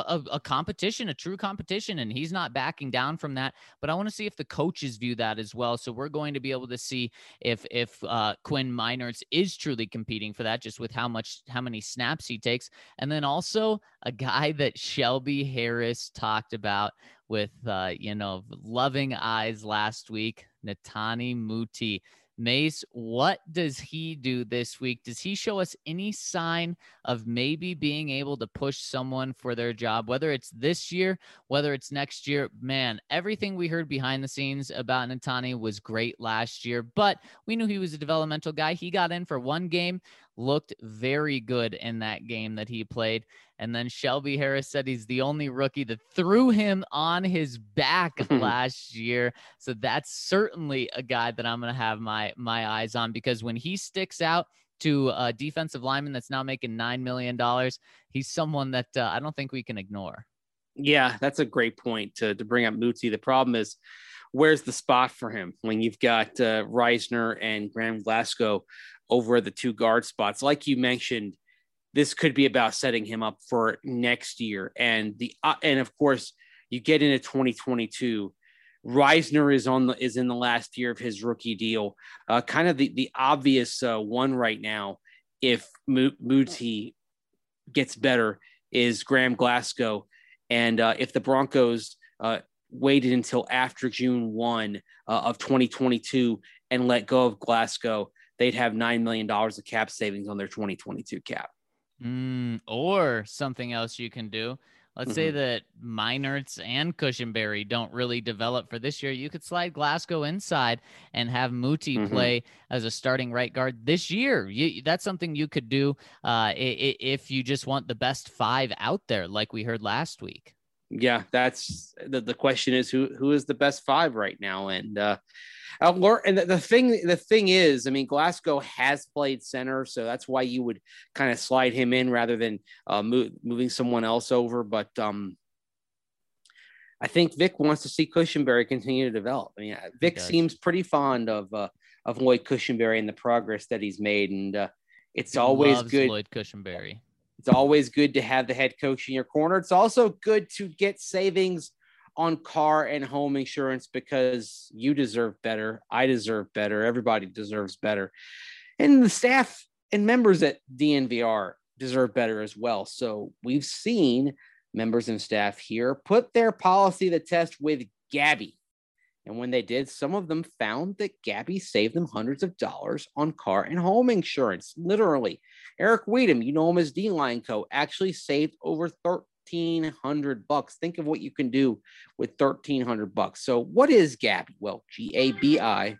a competition, a true competition, and he's not backing down from that. But I want to see if the coaches view that as well. So we're going to be able to see if Quinn Meinerz is truly competing for that, just with how many snaps he takes. And then also a guy that Shelby Harris talked about with, loving eyes last week, Netane Muti. Mace, what does he do this week? Does he show us any sign of maybe being able to push someone for their job, whether it's this year, whether it's next year? Man, everything we heard behind the scenes about Netane was great last year, but we knew he was a developmental guy. He got in for one game, looked very good in that game that he played. And then Shelby Harris said he's the only rookie that threw him on his back last year. So that's certainly a guy that I'm going to have my eyes on, because when he sticks out to a defensive lineman that's now making $9 million, he's someone that I don't think we can ignore. Yeah, that's a great point to bring up Muti. The problem is, where's the spot for him when you've got Reisner and Graham Glasgow over the 2 guard spots? Like you mentioned, this could be about setting him up for next year. And of course, you get into 2022. Reisner is in the last year of his rookie deal. Kind of the obvious one right now, if Muti gets better, is Graham Glasgow. And if the Broncos waited until after June 1 of 2022 and let go of Glasgow, they'd have $9 million of cap savings on their 2022 cap. Or something else you can do. Let's say that Meinerz and Cushenberry don't really develop for this year. You could slide Glasgow inside and have Muti play as a starting right guard this year. That's something you could do if you just want the best 5 out there, like we heard last week. Yeah, that's the question is who is the best 5 right now, and the thing is, I mean, Glasgow has played center, so that's why you would kind of slide him in rather than moving someone else over. But I think Vic wants to see Cushenberry continue to develop. I mean, Vic seems pretty fond of Lloyd Cushenberry and the progress that he's made, and it's always good. Lloyd Cushenberry. It's always good to have the head coach in your corner. It's also good to get savings on car and home insurance because you deserve better. I deserve better. Everybody deserves better. And the staff and members at DNVR deserve better as well. So we've seen members and staff here put their policy to the test with Gabby. And when they did, some of them found that Gabby saved them hundreds of dollars on car and home insurance. Literally. Eric Weedham, you know him as D-Line Co., actually saved over $1,300. Think of what you can do with $1,300. So what is Gabby? Well, GABI,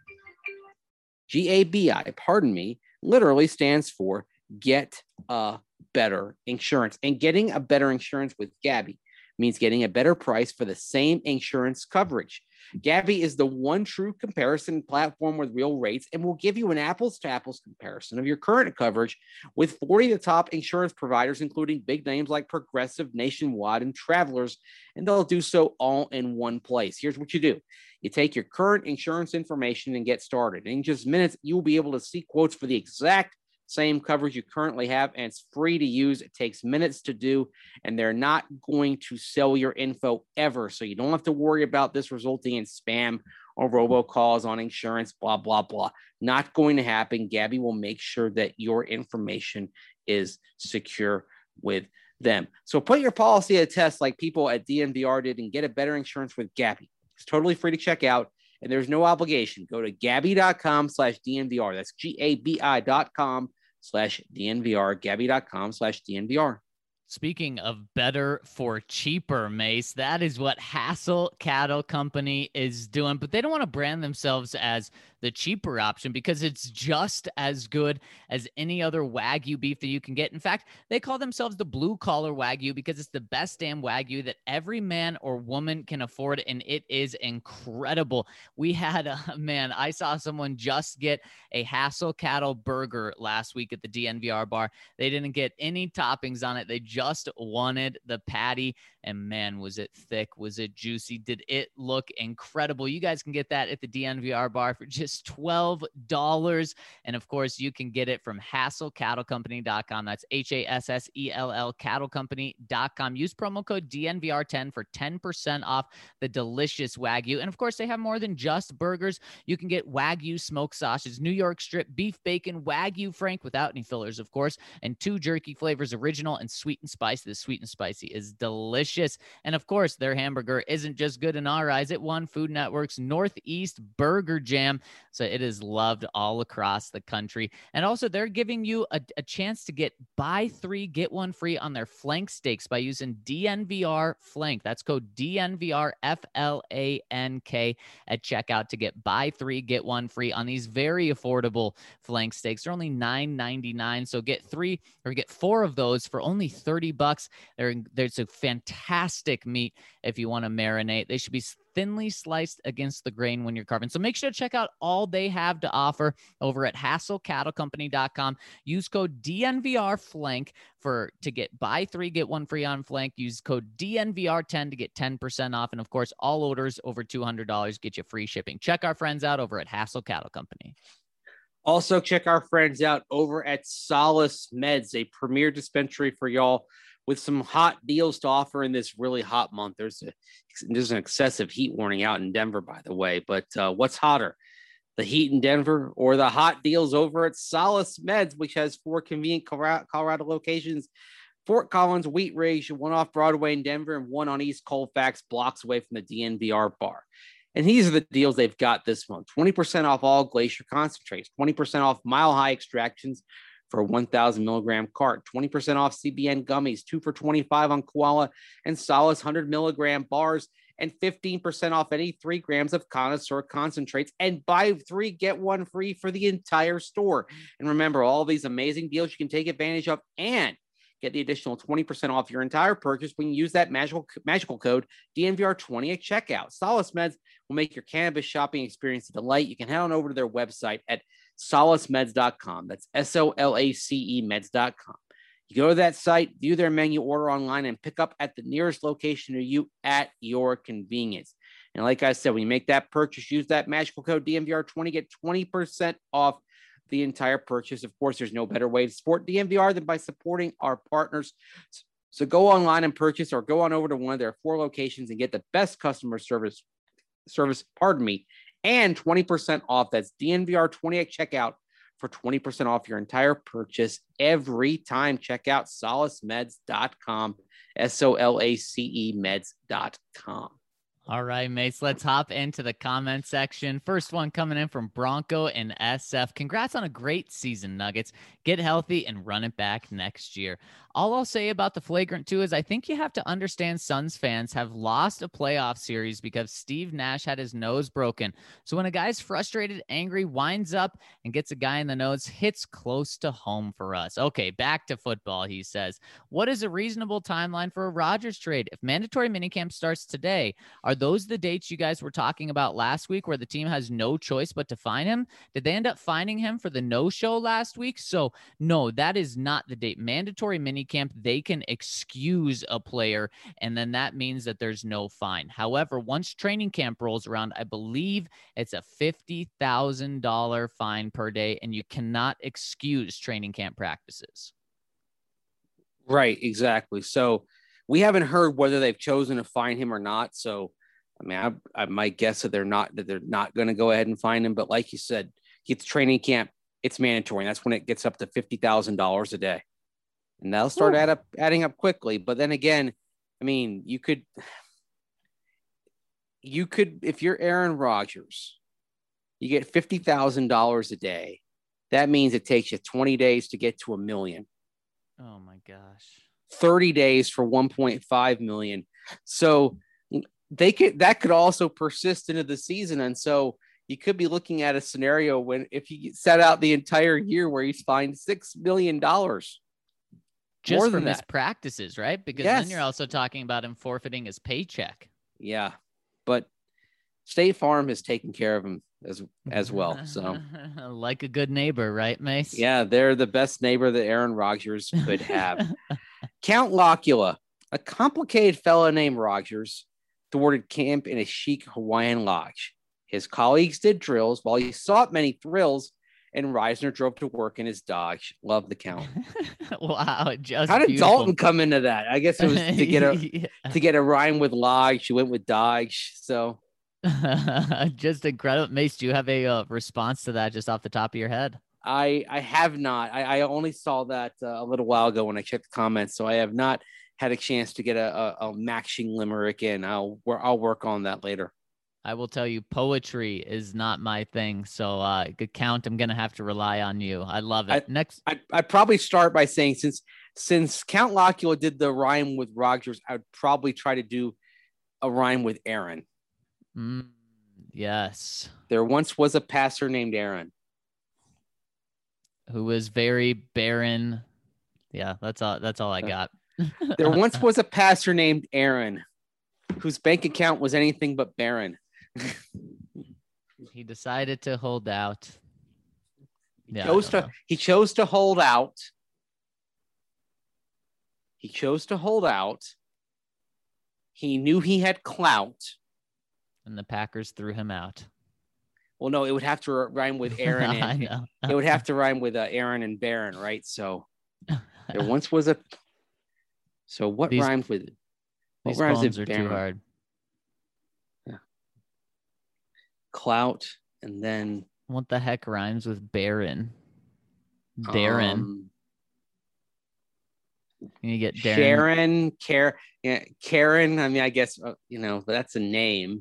pardon me, literally stands for Get a Better Insurance. And getting a better insurance with Gabby means getting a better price for the same insurance coverage. Gabby is the one true comparison platform with real rates and will give you an apples to apples comparison of your current coverage with 40 of the top insurance providers, including big names like Progressive, Nationwide, and Travelers, and they'll do so all in one place. Here's what you do. You take your current insurance information and get started. In just minutes, you'll be able to see quotes for the exact same coverage you currently have, and it's free to use. It takes minutes to do, and they're not going to sell your info ever. So you don't have to worry about this resulting in spam or robocalls on insurance, blah, blah, blah. Not going to happen. Gabby will make sure that your information is secure with them. So put your policy to test like people at DNVR did and get a better insurance with Gabby. It's totally free to check out, and there's no obligation. Go to Gabby.com/DNVR. That's GABI.com/DNVR, Gabby.com/DNVR. Speaking of better for cheaper, Mace, that is what Hassel Cattle Company is doing. But they don't want to brand themselves as the cheaper option because it's just as good as any other Wagyu beef that you can get. In fact, they call themselves the blue collar Wagyu because it's the best damn Wagyu that every man or woman can afford, and it is incredible. We had I saw someone just get a Hassel Cattle burger last week at the DNVR bar. They didn't get any toppings on it. They just wanted the patty, and man, was it thick? Was it juicy? Did it look incredible? You guys can get that at the DNVR bar for just $12. And of course, you can get it from HassellCattleCompany.com. That's HASSELL cattlecompany.com. Use promo code DNVR10 for 10% off the delicious Wagyu. And of course, they have more than just burgers. You can get Wagyu smoked sausage, New York strip, beef bacon, Wagyu Frank without any fillers, of course, and 2 jerky flavors, original and sweet and spicy. The sweet and spicy is delicious. And of course, their hamburger isn't just good in our eyes. It won Food Network's Northeast Burger Jam. So it is loved all across the country. And also, they're giving you a chance to buy 3, get 1 free on their flank steaks by using DNVR Flank. That's code DNVR FLANK at checkout to get buy 3, get 1 free on these very affordable flank steaks. They're only $9.99. So get 3 or get 4 of those for only $30. There's a fantastic meat if you want to marinate. They should be thinly sliced against the grain when you're carving. So make sure to check out all they have to offer over at HassellCattleCompany.com. Use code DNVRFlank to get buy 3, get 1 free on flank. Use code DNVR10 to get 10% off. And of course, all orders over $200 get you free shipping. Check our friends out over at Hassell Cattle Company. Also, check our friends out over at Solace Meds, a premier dispensary for y'all with some hot deals to offer in this really hot month. There's an excessive heat warning out in Denver, by the way. But what's hotter, the heat in Denver or the hot deals over at Solace Meds, which has 4 convenient Colorado locations: Fort Collins, Wheat Ridge, 1 off Broadway in Denver, and 1 on East Colfax, blocks away from the DNVR bar. And these are the deals they've got this month: 20% off all Glacier concentrates, 20% off Mile High extractions for a 1,000 milligram cart, 20% off CBN gummies, 2 for $25 on Koala and Solace 100 milligram bars, and 15% off any 3 grams of Connoisseur concentrates, and buy 3, get 1 free for the entire store. And remember, all these amazing deals you can take advantage of and get the additional 20% off your entire purchase when you use that magical code DNVR20 at checkout. Solace Meds will make your cannabis shopping experience a delight. You can head on over to their website at solacemeds.com. That's SOLACE meds.com. You go to that site, view their menu, order online, and pick up at the nearest location to you at your convenience. And like I said, when you make that purchase, use that magical code DNVR20, get 20% off the entire purchase. Of course, there's no better way to support DNVR than by supporting our partners. So go online and purchase, or go on over to one of their 4 locations and get the best customer service, and 20% off. That's DNVR20 at checkout for 20% off your entire purchase every time. Check out solacemeds.com, SOLACE meds.com. All right, mates, let's hop into the comment section. First one coming in from Bronco and SF. Congrats on a great season, Nuggets. Get healthy and run it back next year. All I'll say about the flagrant 2 is I think you have to understand Suns fans have lost a playoff series because Steve Nash had his nose broken. So when a guy's frustrated, angry, winds up and gets a guy in the nose, hits close to home for us. Okay, back to football, he says. What is a reasonable timeline for a Rodgers trade? If mandatory minicamp starts today, are those the dates you guys were talking about last week where the team has no choice but to find him? Did they end up finding him for the no-show last week? So no, that is not the date. Mandatory minicamp, they can excuse a player, and then that means that there's no fine. However, once training camp rolls around, I believe it's a $50,000 fine per day, and you cannot excuse training camp practices. Right, exactly. So we haven't heard whether they've chosen to fine him or not. So, I mean, I might guess that they're not going to go ahead and fine him. But like you said, it's training camp. It's mandatory. And that's when it gets up to $50,000 a day. And that'll start adding up quickly. But then again, I mean, you could, if you're Aaron Rodgers, you get $50,000 a day. That means it takes you 20 days to get to $1 million. Oh my gosh. 30 days for 1.5 million. So that could also persist into the season. And so you could be looking at a scenario when if he set out the entire year where he's fined $6 million. Just from his practices, right? Because yes. Then you're also talking about him forfeiting his paycheck. Yeah. But State Farm has taken care of him as well. So like a good neighbor, right, Mace? Yeah, they're the best neighbor that Aaron Rodgers could have. Count Locula, a complicated fellow named Rodgers, thwarted camp in a chic Hawaiian lodge. His colleagues did drills while he sought many thrills, and Reisner drove to work in his Dodge. Love the Count. Wow, just how did beautiful. Dalton come into that? I guess it was to get a rhyme with Lodge. She went with Dodge. So just incredible. Mace, do you have a response to that just off the top of your head? I have not. I only saw that a little while ago when I checked the comments, so I have not had a chance to get a matching limerick in. I'll work on that later. I will tell you, poetry is not my thing. So good Count, I'm gonna have to rely on you. I love it. Next, I'd probably start by saying since Count Locula did the rhyme with Rodgers, I would probably try to do a rhyme with Aaron. Yes. There once was a passer named Aaron, who was very barren. Yeah, that's all I got. There once was a passer named Aaron, whose bank account was anything but barren. He decided to hold out. He chose to hold out. He chose to hold out. He knew he had clout. And the Packers threw him out. Well, no, it would have to rhyme with Aaron. And, I know. It would have to rhyme with Aaron and Barron, right? So there once was a. So what rhymes with it? What These rhymes poems with are Barron? too hard. Yeah. Clout, and then what the heck rhymes with barren? Darren. You get Darren. Karen. I mean, I guess that's a name.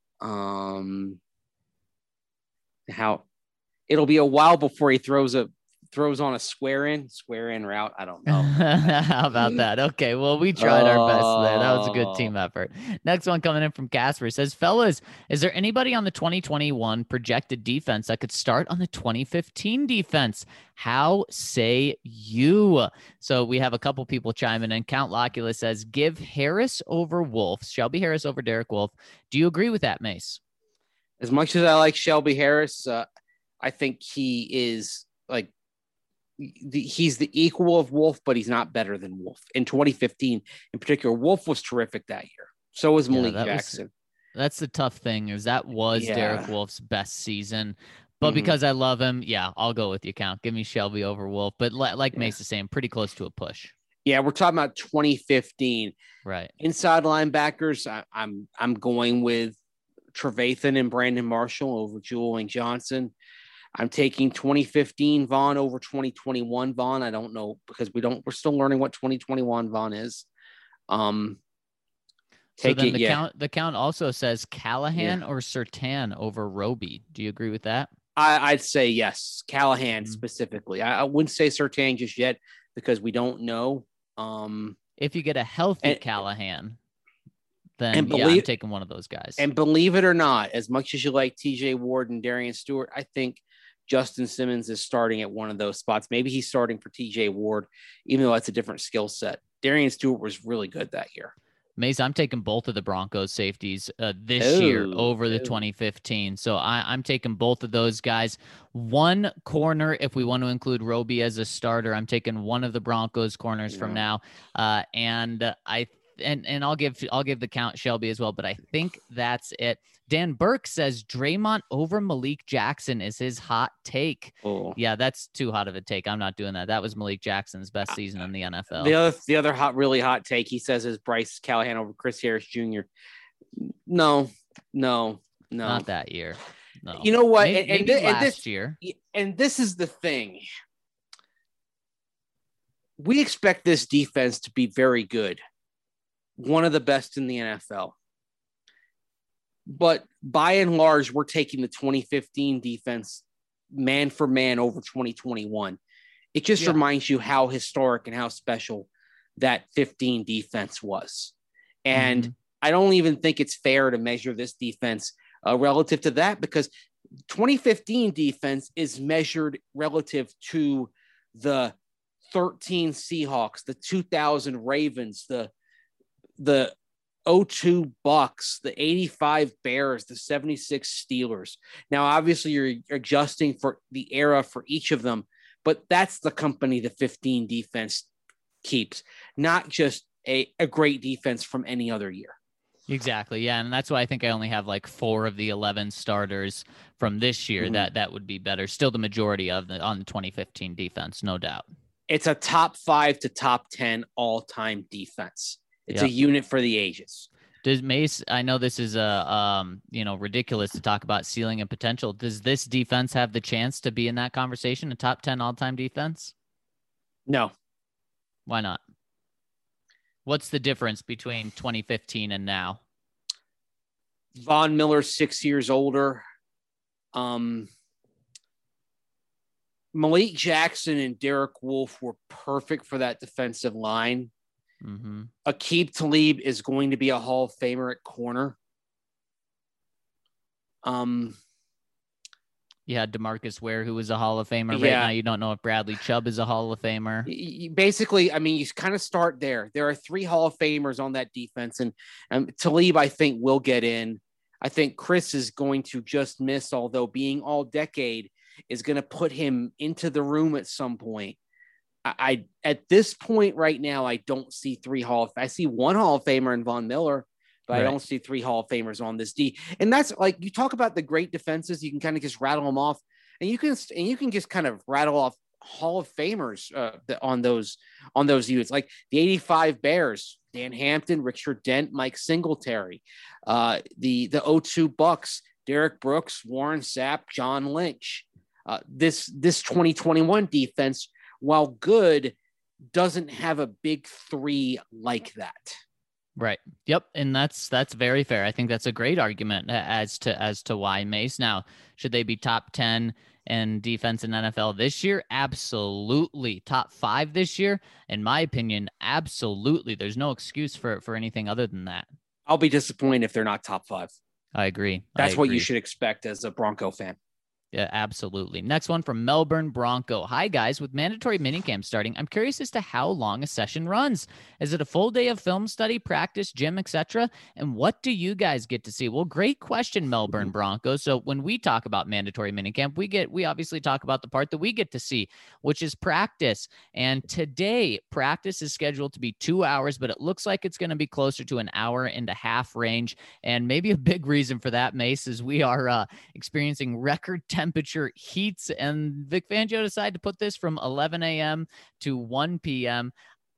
How it'll be a while before he throws on a square in route. I don't know. How about that? Okay, well, we tried our best there. That was a good team effort. Next one coming in from Casper says, fellas, is there anybody on the 2021 projected defense that could start on the 2015 defense? How say you? So we have a couple people chiming in. Count Locula says, give Harris over Wolf, Shelby Harris over Derek Wolf. Do you agree with that, Mace? As much as I like Shelby Harris, I think he is he's the equal of Wolf, but he's not better than Wolf. In 2015, in particular, Wolf was terrific that year. So was Malik Jackson. That's the tough thing is that was Derek Wolf's best season. But because I love him, I'll go with you, Count. Give me Shelby over Wolf. But like Mace is saying, pretty close to a push. Yeah, we're talking about 2015. Right. Inside linebackers, I'm going with Trevathan and Brandon Marshall over Julian Johnson. I'm taking 2015 Vaughn over 2021 Vaughn. I don't know because we're still learning what 2021 Vaughn is. So then the count also says Callahan or Surtain over Roby. Do you agree with that? I'd say yes, Callahan specifically. I wouldn't say Surtain just yet because we don't know. If you get a healthy Callahan, then I'm taking one of those guys. And believe it or not, as much as you like TJ Ward and Darian Stewart, I think Justin Simmons is starting at one of those spots. Maybe he's starting for TJ Ward, even though that's a different skill set. Darian Stewart was really good that year. Mace, I'm taking both of the Broncos safeties this year over the 2015. So I'm taking both of those guys. One corner, if we want to include Roby as a starter, I'm taking one of the Broncos corners from now. And I'll give the count Shelby as well, but I think that's it. Dan Burke says Draymond over Malik Jackson is his hot take. Oh. Yeah, that's too hot of a take. I'm not doing that. That was Malik Jackson's best season in the NFL. The other really hot take he says is Bryce Callahan over Chris Harris Jr. No. Not that year. No. You know what? Maybe last year. And this is the thing. We expect this defense to be very good. One of the best in the NFL. But by and large, we're taking the 2015 defense man for man over 2021. It just reminds you how historic and how special that 15 defense was. And I don't even think it's fair to measure this defense relative to that, because 2015 defense is measured relative to the 13 Seahawks, the 2000 Ravens, the 02 Bucks, the 85 Bears, the 76 Steelers. Now, obviously, you're adjusting for the era for each of them, but that's the company the 15 defense keeps, not just a great defense from any other year. Exactly. Yeah. And that's why I think I only have like 4 of the 11 starters from this year. That would be better. Still the majority on the 2015 defense, no doubt. It's a top 5 to top 10 all-time defense. It's a unit for the ages. Does Mace, I know this is ridiculous to talk about ceiling and potential. Does this defense have the chance to be in that conversation, a top 10 all-time defense? No. Why not? What's the difference between 2015 and now? Von Miller's 6 years older. Malik Jackson and Derek Wolfe were perfect for that defensive line. Aqib Talib is going to be a Hall of Famer at corner. You had DeMarcus Ware, who was a Hall of Famer. Right now, you don't know if Bradley Chubb is a Hall of Famer. Basically, I mean, you kind of start there. There are 3 Hall of Famers on that defense, and Talib, I think, will get in. I think Chris is going to just miss, although being all decade is going to put him into the room at some point. I at this point right now, I don't see 3 I see 1 Hall of Famer in Von Miller, but I don't see 3 Hall of Famers on this D. And that's like, you talk about the great defenses, you can kind of just rattle them off, and you can just kind of rattle off Hall of Famers on those units, like the 85 Bears, Dan Hampton, Richard Dent, Mike Singletary, the 02 Bucks, Derek Brooks, Warren Sapp, John Lynch. This 2021 defense, while good, doesn't have a big 3 like that. Right. Yep. And that's very fair. I think that's a great argument as to why, Mace. Now, should they be top 10 in defense in NFL this year? Absolutely. Top 5 this year? In my opinion, absolutely. There's no excuse for anything other than that. I'll be disappointed if they're not top 5. I agree. That's what you should expect as a Bronco fan. Yeah, absolutely. Next one from Melbourne Bronco. Hi, guys. With mandatory minicamp starting, I'm curious as to how long a session runs. Is it a full day of film study, practice, gym, etc.? And what do you guys get to see? Well, great question, Melbourne Bronco. So when we talk about mandatory minicamp, we obviously talk about the part that we get to see, which is practice. And today, practice is scheduled to be 2 hours, but it looks like it's going to be closer to an hour and a half range. And maybe a big reason for that, Mace, is we are experiencing record temperature heats, and Vic Fangio decided to put this from 11 a.m. to 1 p.m.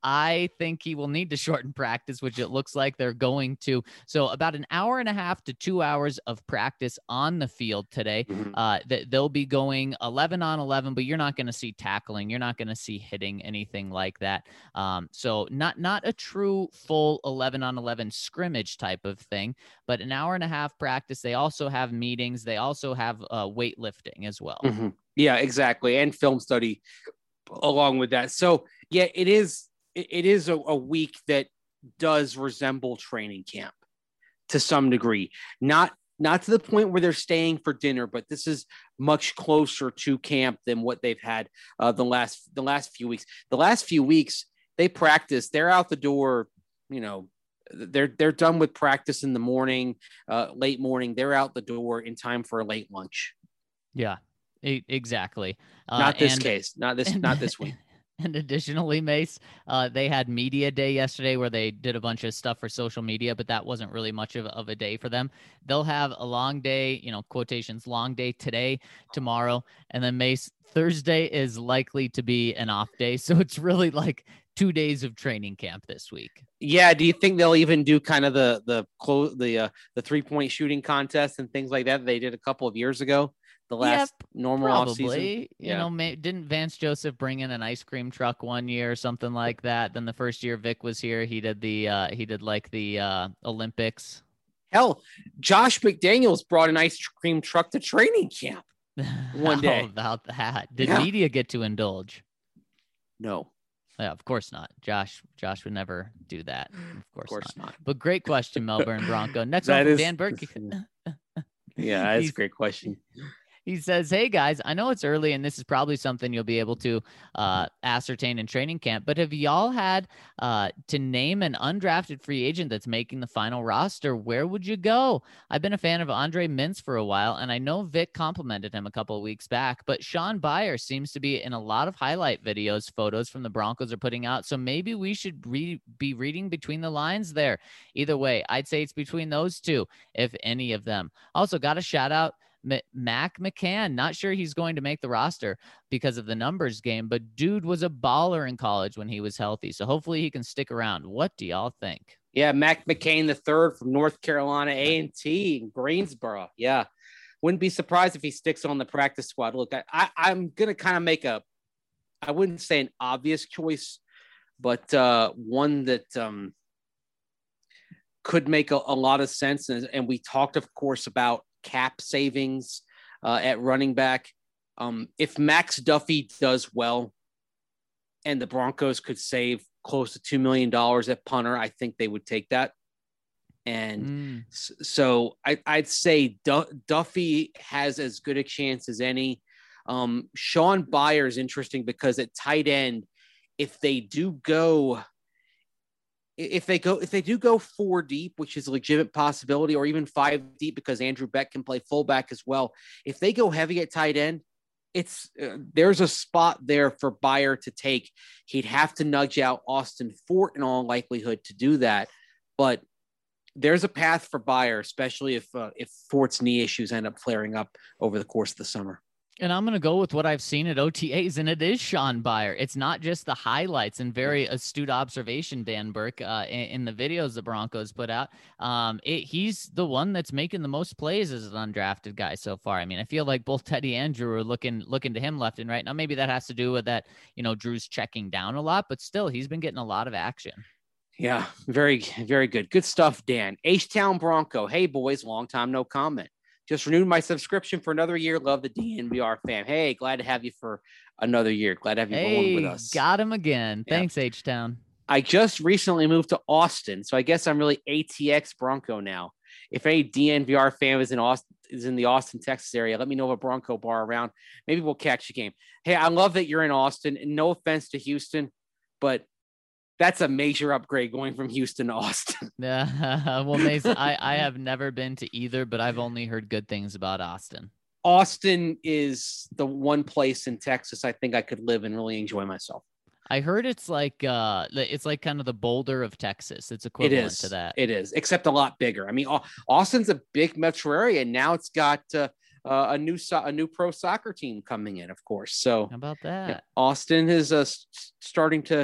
I think he will need to shorten practice, which it looks like they're going to. So about an hour and a half to 2 hours of practice on the field today. They'll be going 11 on 11, but you're not going to see tackling. You're not going to see hitting, anything like that. So not a true full 11 on 11 scrimmage type of thing, but an hour and a half practice. They also have meetings. They also have weightlifting as well. Yeah, exactly. And film study along with that. So yeah, it is a week that does resemble training camp to some degree. Not to the point where they're staying for dinner, but this is much closer to camp than what they've had the last few weeks. The last few weeks they practice, they're out the door, they're done with practice in the morning, late morning. They're out the door in time for a late lunch. Yeah, exactly. Not this week. And additionally, Mace, they had media day yesterday where they did a bunch of stuff for social media, but that wasn't really much of a day for them. They'll have a long day, quotations, long day today, tomorrow, and then Mace, Thursday is likely to be an off day. So it's really like 2 days of training camp this week. Yeah. Do you think they'll even do kind of the 3-point shooting contest and things like that they did a couple of years ago? The last normal probably, offseason. Didn't Vance Joseph bring in an ice cream truck one year or something like that? Then the first year Vic was here, he did the Olympics. Hell, Josh McDaniels brought an ice cream truck to training camp one day. How about that? Did media get to indulge? No. Yeah, of course not. Josh would never do that. Of course not. But great question, Melbourne Bronco. Next one from Dan Burke. Yeah, that's a great question. He says, hey, guys, I know it's early and this is probably something you'll be able to ascertain in training camp, but have y'all had to name an undrafted free agent that's making the final roster? Where would you go? I've been a fan of Andre Mintz for a while, and I know Vic complimented him a couple of weeks back, but Sean Byer seems to be in a lot of highlight videos, photos from the Broncos are putting out, so maybe we should be reading between the lines there. Either way, I'd say it's between those two, if any of them. Also, got a shout out Mac McCann. Not sure he's going to make the roster because of the numbers game, but dude was a baller in college when he was healthy. So hopefully he can stick around. What do y'all think? Yeah, Mac McCain the third from North Carolina A&T in Greensboro. Yeah, wouldn't be surprised if he sticks on the practice squad. Look, I'm gonna kind of make I wouldn't say an obvious choice, but one that could make a lot of sense. And we talked, of course, about cap savings at running back. If Max Duffy does well and the Broncos could save close to $2 million at punter, I think they would take that. And so I'd say Duffy has as good a chance as any. Sean Byer is interesting because at tight end, if they do go 4 deep, which is a legitimate possibility, or even 5 deep because Andrew Beck can play fullback as well. If they go heavy at tight end, there's a spot there for Byer to take. He'd have to nudge out Austin Fort in all likelihood to do that, but there's a path for Byer, especially if Fort's knee issues end up flaring up over the course of the summer. And I'm going to go with what I've seen at OTAs, and it is Sean Byer. It's not just the highlights, and very astute observation, Dan Burke, in the videos the Broncos put out. He's the one that's making the most plays as an undrafted guy so far. I mean, I feel like both Teddy and Drew are looking to him left and right. Now, maybe that has to do with that, Drew's checking down a lot, but still, he's been getting a lot of action. Yeah, very, very good. Good stuff, Dan. H-Town Bronco. Hey, boys, long time no comment. Just renewed my subscription for another year. Love the DNVR fam. Hey, glad to have you for another year. Glad to have you rolling with us. Got him again. Yeah. Thanks, H-Town. I just recently moved to Austin, so I guess I'm really ATX Bronco now. If any DNVR fan is in the Austin, Texas area, let me know of a Bronco bar around. Maybe we'll catch a game. Hey, I love that you're in Austin, and no offense to Houston, but that's a major upgrade going from Houston to Austin. Well, Mason, I have never been to either, but I've only heard good things about Austin. Austin is the one place in Texas I think I could live and really enjoy myself. I heard it's like kind of the Boulder of Texas. It's equivalent to that. It is, except a lot bigger. I mean, Austin's a big metro area, and now it's got a new pro soccer team coming in, of course. So how about that? Austin is starting to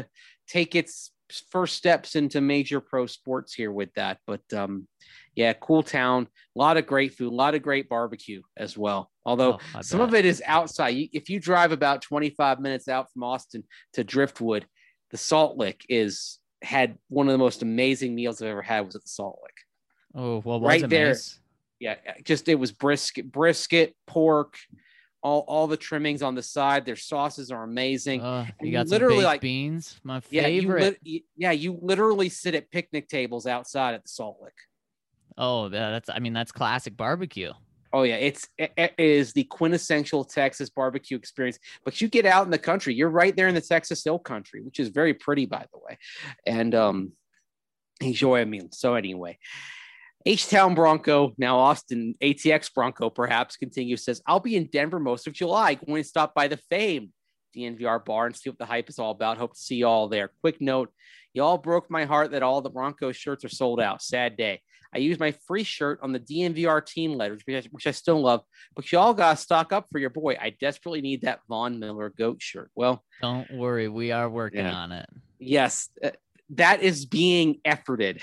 take its first steps into major pro sports here with that. But yeah, cool town, a lot of great food, a lot of great barbecue as well. Although some of it is outside. If you drive about 25 minutes out from Austin to Driftwood, the Salt Lick had one of the most amazing meals I've ever had was at the Salt Lick. Oh, well, right there. Nice? Yeah, it was brisket, pork, all the trimmings on the side. Their sauces are amazing. You got literally some baked beans, my favorite. You literally sit at picnic tables outside at the Salt Lick. Oh, that's classic barbecue. Oh yeah, it is the quintessential Texas barbecue experience. But you get out in the country, you're right there in the Texas Hill Country, which is very pretty, by the way. And enjoy a meal. So anyway, H-Town Bronco, now Austin ATX Bronco, perhaps continues, says, I'll be in Denver most of July, going to stop by the famed DNVR bar and see what the hype is all about. Hope to see you all there. Quick note, y'all broke my heart that all the Broncos shirts are sold out. Sad day. I used my free shirt on the DNVR team letters, which I still love, but y'all got to stock up for your boy. I desperately need that Von Miller GOAT shirt. Well, don't worry. We are working on it. Yes, that is being efforted.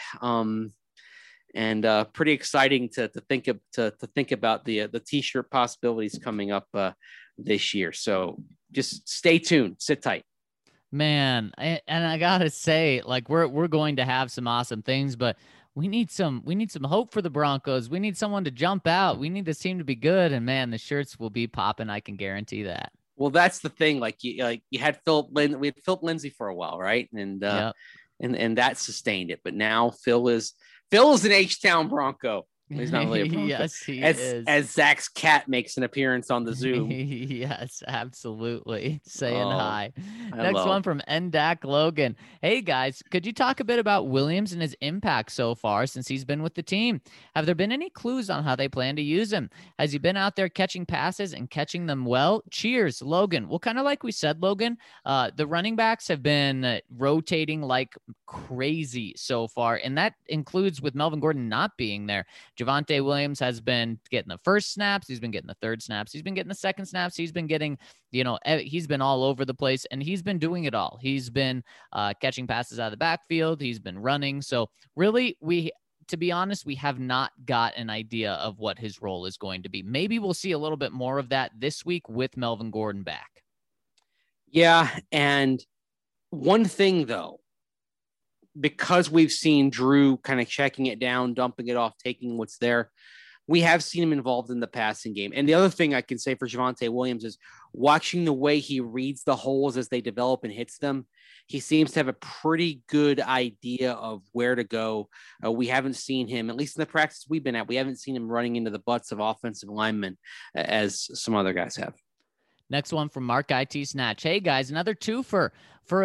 And pretty exciting to think about the t-shirt possibilities coming up this year. So just stay tuned, sit tight. Man, and I gotta say, like we're going to have some awesome things, but we need some hope for the Broncos. We need someone to jump out. We need this team to be good, and man, the shirts will be popping. I can guarantee that. Well, that's the thing. You had we had Philip Lindsay for a while, right? And and that sustained it. But now Phil is an H-Town Bronco. He's not really a Bronco. Yes, he is. As Zach's cat makes an appearance on the Zoom. Yes, absolutely. Saying hi. Next one from NDAC Logan. Hey, guys, could you talk a bit about Williams and his impact so far since he's been with the team? Have there been any clues on how they plan to use him? Has he been out there catching passes and catching them well? Cheers, Logan. Well, kind of like we said, Logan, the running backs have been rotating like crazy so far, and that includes with Melvin Gordon not being there. Javonte Williams has been getting the first snaps. He's been getting the third snaps. He's been getting the second snaps. He's been getting, he's been all over the place, and he's been doing it all. He's been catching passes out of the backfield. He's been running. So really, to be honest, we have not got an idea of what his role is going to be. Maybe we'll see a little bit more of that this week with Melvin Gordon back. Yeah, and one thing, though, because we've seen Drew kind of checking it down, dumping it off, taking what's there, we have seen him involved in the passing game. And the other thing I can say for Javonte Williams is watching the way he reads the holes as they develop and hits them. He seems to have a pretty good idea of where to go. We haven't seen him, at least in the practice we've been at, we haven't seen him running into the butts of offensive linemen as some other guys have. Next one from Mark IT Snatch. Hey guys, another twofer for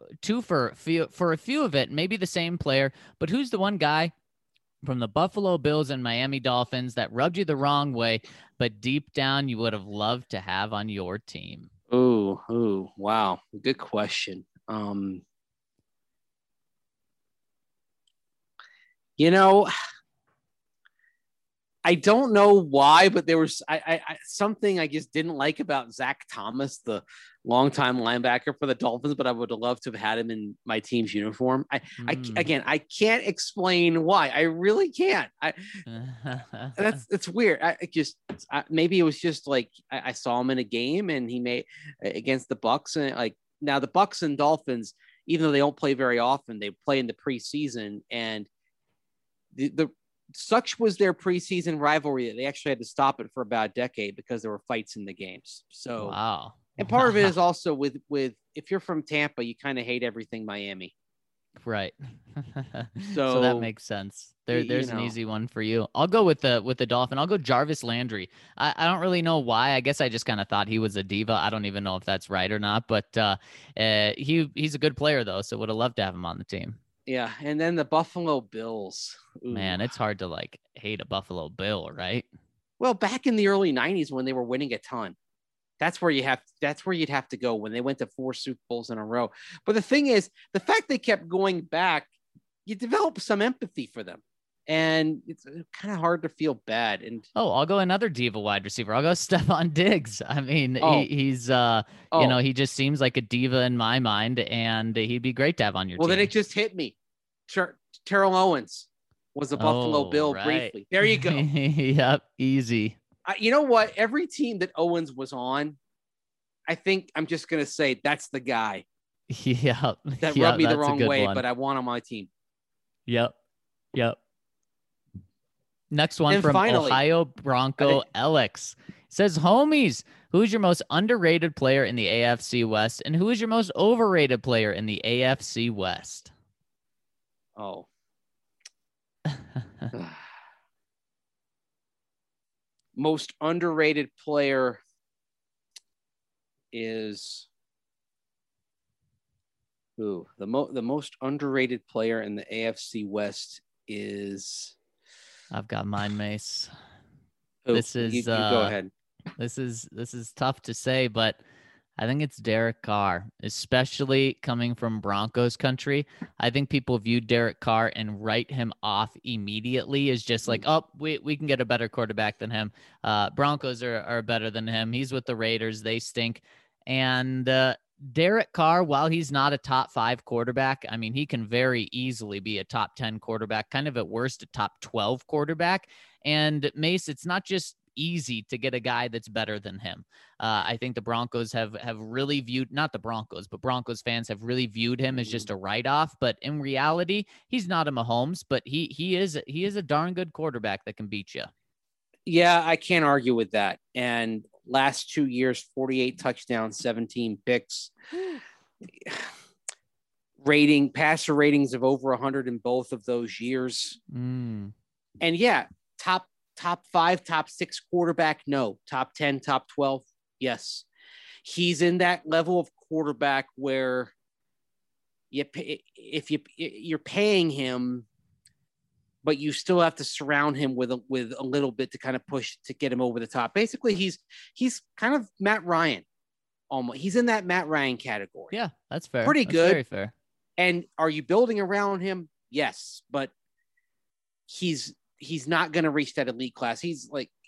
a few of it, maybe the same player, but who's the one guy from the Buffalo Bills and Miami Dolphins that rubbed you the wrong way, but deep down you would have loved to have on your team? Ooh, wow. Good question. I don't know why, but there was something I just didn't like about Zach Thomas, the longtime linebacker for the Dolphins, but I would have loved to have had him in my team's uniform. I can't explain why. I really can't. It's weird. Maybe it was just like I saw him in a game and he made against the Bucs, and now the Bucs and Dolphins, even though they don't play very often, they play in the preseason, and the such was their preseason rivalry that they actually had to stop it for about a decade because there were fights in the games. So, wow. And part of it is also with if you're from Tampa, you kind of hate everything Miami. Right. So that makes sense. There's an easy one for you. I'll go with the Dolphin. I'll go Jarvis Landry. I don't really know why. I guess I just kind of thought he was a diva. I don't even know if that's right or not, but he's a good player though. So would have loved to have him on the team. Yeah, and then the Buffalo Bills. Ooh. Man, it's hard to hate a Buffalo Bill, right? Well, back in the early 90s when they were winning a ton, that's where you'd have to go when they went to 4 Super Bowls in a row. But the thing is, the fact they kept going back, you develop some empathy for them. and it's kind of hard to feel bad. And Oh, I'll go another diva wide receiver. I'll go Stephon Diggs. I mean, he's he just seems like a diva in my mind, and he'd be great to have on your team. Well, then it just hit me. Terrell Owens was a Buffalo Bill right. briefly. There you go. Yep, easy. You know what? Every team that Owens was on, I think I'm just going to say that's the guy. Yep. That rubbed me the wrong way, but I want on my team. Yep. Next one and from finally, Ohio Bronco Alex. Says, homies, who's your most underrated player in the AFC West, and who is your most overrated player in the AFC West? Oh. Most underrated player is who? The most underrated player in the AFC West is. I've got mine, Mace. Who? This is you go ahead. This is tough to say, but I think it's Derek Carr, especially coming from Broncos country. I think people view Derek Carr and write him off immediately as just like, oh, we can get a better quarterback than him. Broncos are better than him. He's with the Raiders. They stink. And Derek Carr, while he's not a top 5 quarterback, I mean, he can very easily be a top 10 quarterback, kind of at worst a top 12 quarterback. And Mace, it's not just easy to get a guy that's better than him. I think the Broncos have really viewed, not the Broncos, but Broncos fans have really viewed him as just a write-off. But in reality, he's not a Mahomes, but he is a darn good quarterback that can beat you. Yeah, I can't argue with that. And last 2 years, 48 touchdowns, 17 picks. Passer ratings of over 100 in both of those years. And yeah, top 5, top 6 quarterback. No. Top 10, top 12. Yes. He's in that level of quarterback where if you're paying him, but you still have to surround him with a little bit to kind of push to get him over the top. Basically, he's kind of Matt Ryan. Almost. He's in that Matt Ryan category. Yeah, that's fair. Pretty that's good. Very fair. And are you building around him? Yes, but he's not going to reach that elite class. You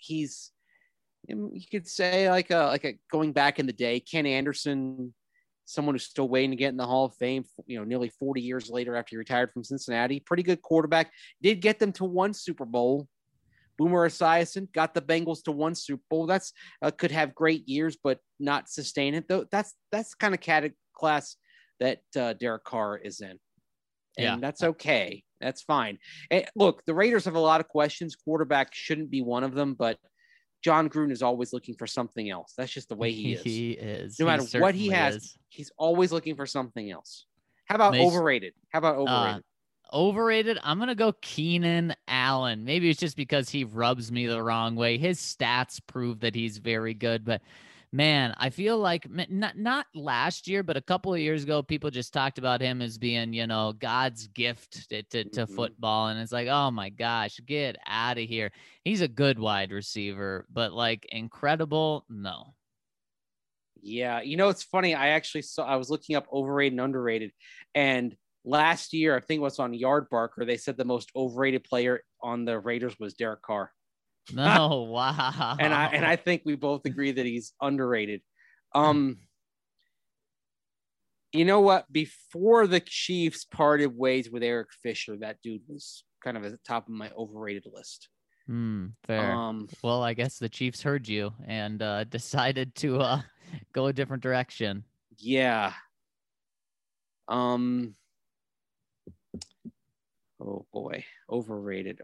could say like a going back in the day, Ken Anderson, someone who's still waiting to get in the Hall of Fame, nearly 40 years later after he retired from Cincinnati. Pretty good quarterback. Did get them to 1 Super Bowl. Boomer Esiason got the Bengals to 1 Super Bowl. That's could have great years, but not sustain it. Though that's kind of class that Derek Carr is in. And that's okay. That's fine. And look, the Raiders have a lot of questions. Quarterback shouldn't be one of them, but John Gruden is always looking for something else. That's just the way he is. He is. No matter what he has, he's always looking for something else. How about overrated? Overrated? I'm going to go Keenan Allen. Maybe it's just because he rubs me the wrong way. His stats prove that he's very good, but man, I feel like not last year, but a couple of years ago, people just talked about him as being, God's gift to football. And it's like, oh my gosh, get out of here. He's a good wide receiver, but like incredible. No. Yeah. It's funny. I was looking up overrated and underrated, and last year, I think it was on Yardbarker, they said the most overrated player on the Raiders was Derek Carr. No, wow. And I think we both agree that he's underrated. You know what? Before the Chiefs parted ways with Eric Fisher, that dude was kind of at the top of my overrated list. Fair. Well, I guess the Chiefs heard you and decided to go a different direction. Yeah. Oh boy. Overrated.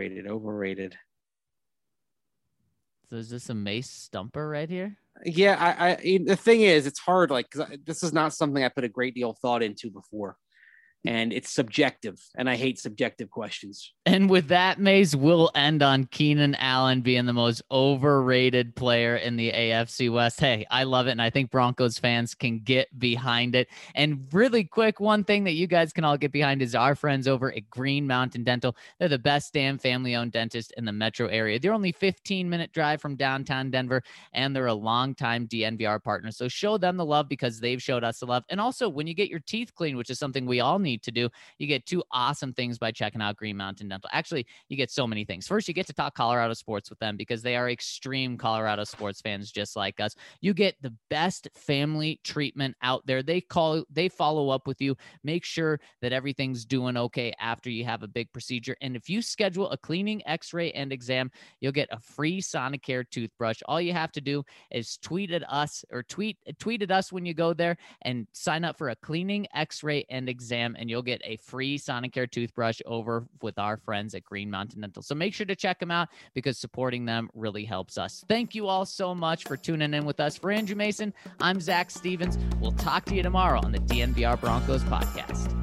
So is this a Mace stumper right here? Yeah, I the thing is, it's hard, because this is not something I put a great deal of thought into before. And it's subjective, and I hate subjective questions. And with that, Mace, we'll end on Keenan Allen being the most overrated player in the AFC West. Hey, I love it, and I think Broncos fans can get behind it. And really quick, one thing that you guys can all get behind is our friends over at Green Mountain Dental. They're the best damn family-owned dentist in the metro area. They're only 15-minute drive from downtown Denver, and they're a longtime DNVR partner. So show them the love because they've showed us the love. And also, when you get your teeth cleaned, which is something we all need need to do, you get two awesome things by checking out Green Mountain Dental. Actually, you get so many things. First, you get to talk Colorado sports with them because they are extreme Colorado sports fans just like us. You get the best family treatment out there. They follow up with you, make sure that everything's doing okay after you have a big procedure. And if you schedule a cleaning, x-ray, and exam, you'll get a free Sonicare toothbrush. All you have to do is tweet at us when you go there and sign up for a cleaning, x-ray, and exam, and you'll get a free Sonicare toothbrush over with our friends at Green Mountain Dental. So make sure to check them out because supporting them really helps us. Thank you all so much for tuning in with us. For Andrew Mason, I'm Zach Stevens. We'll talk to you tomorrow on the DNVR Broncos podcast.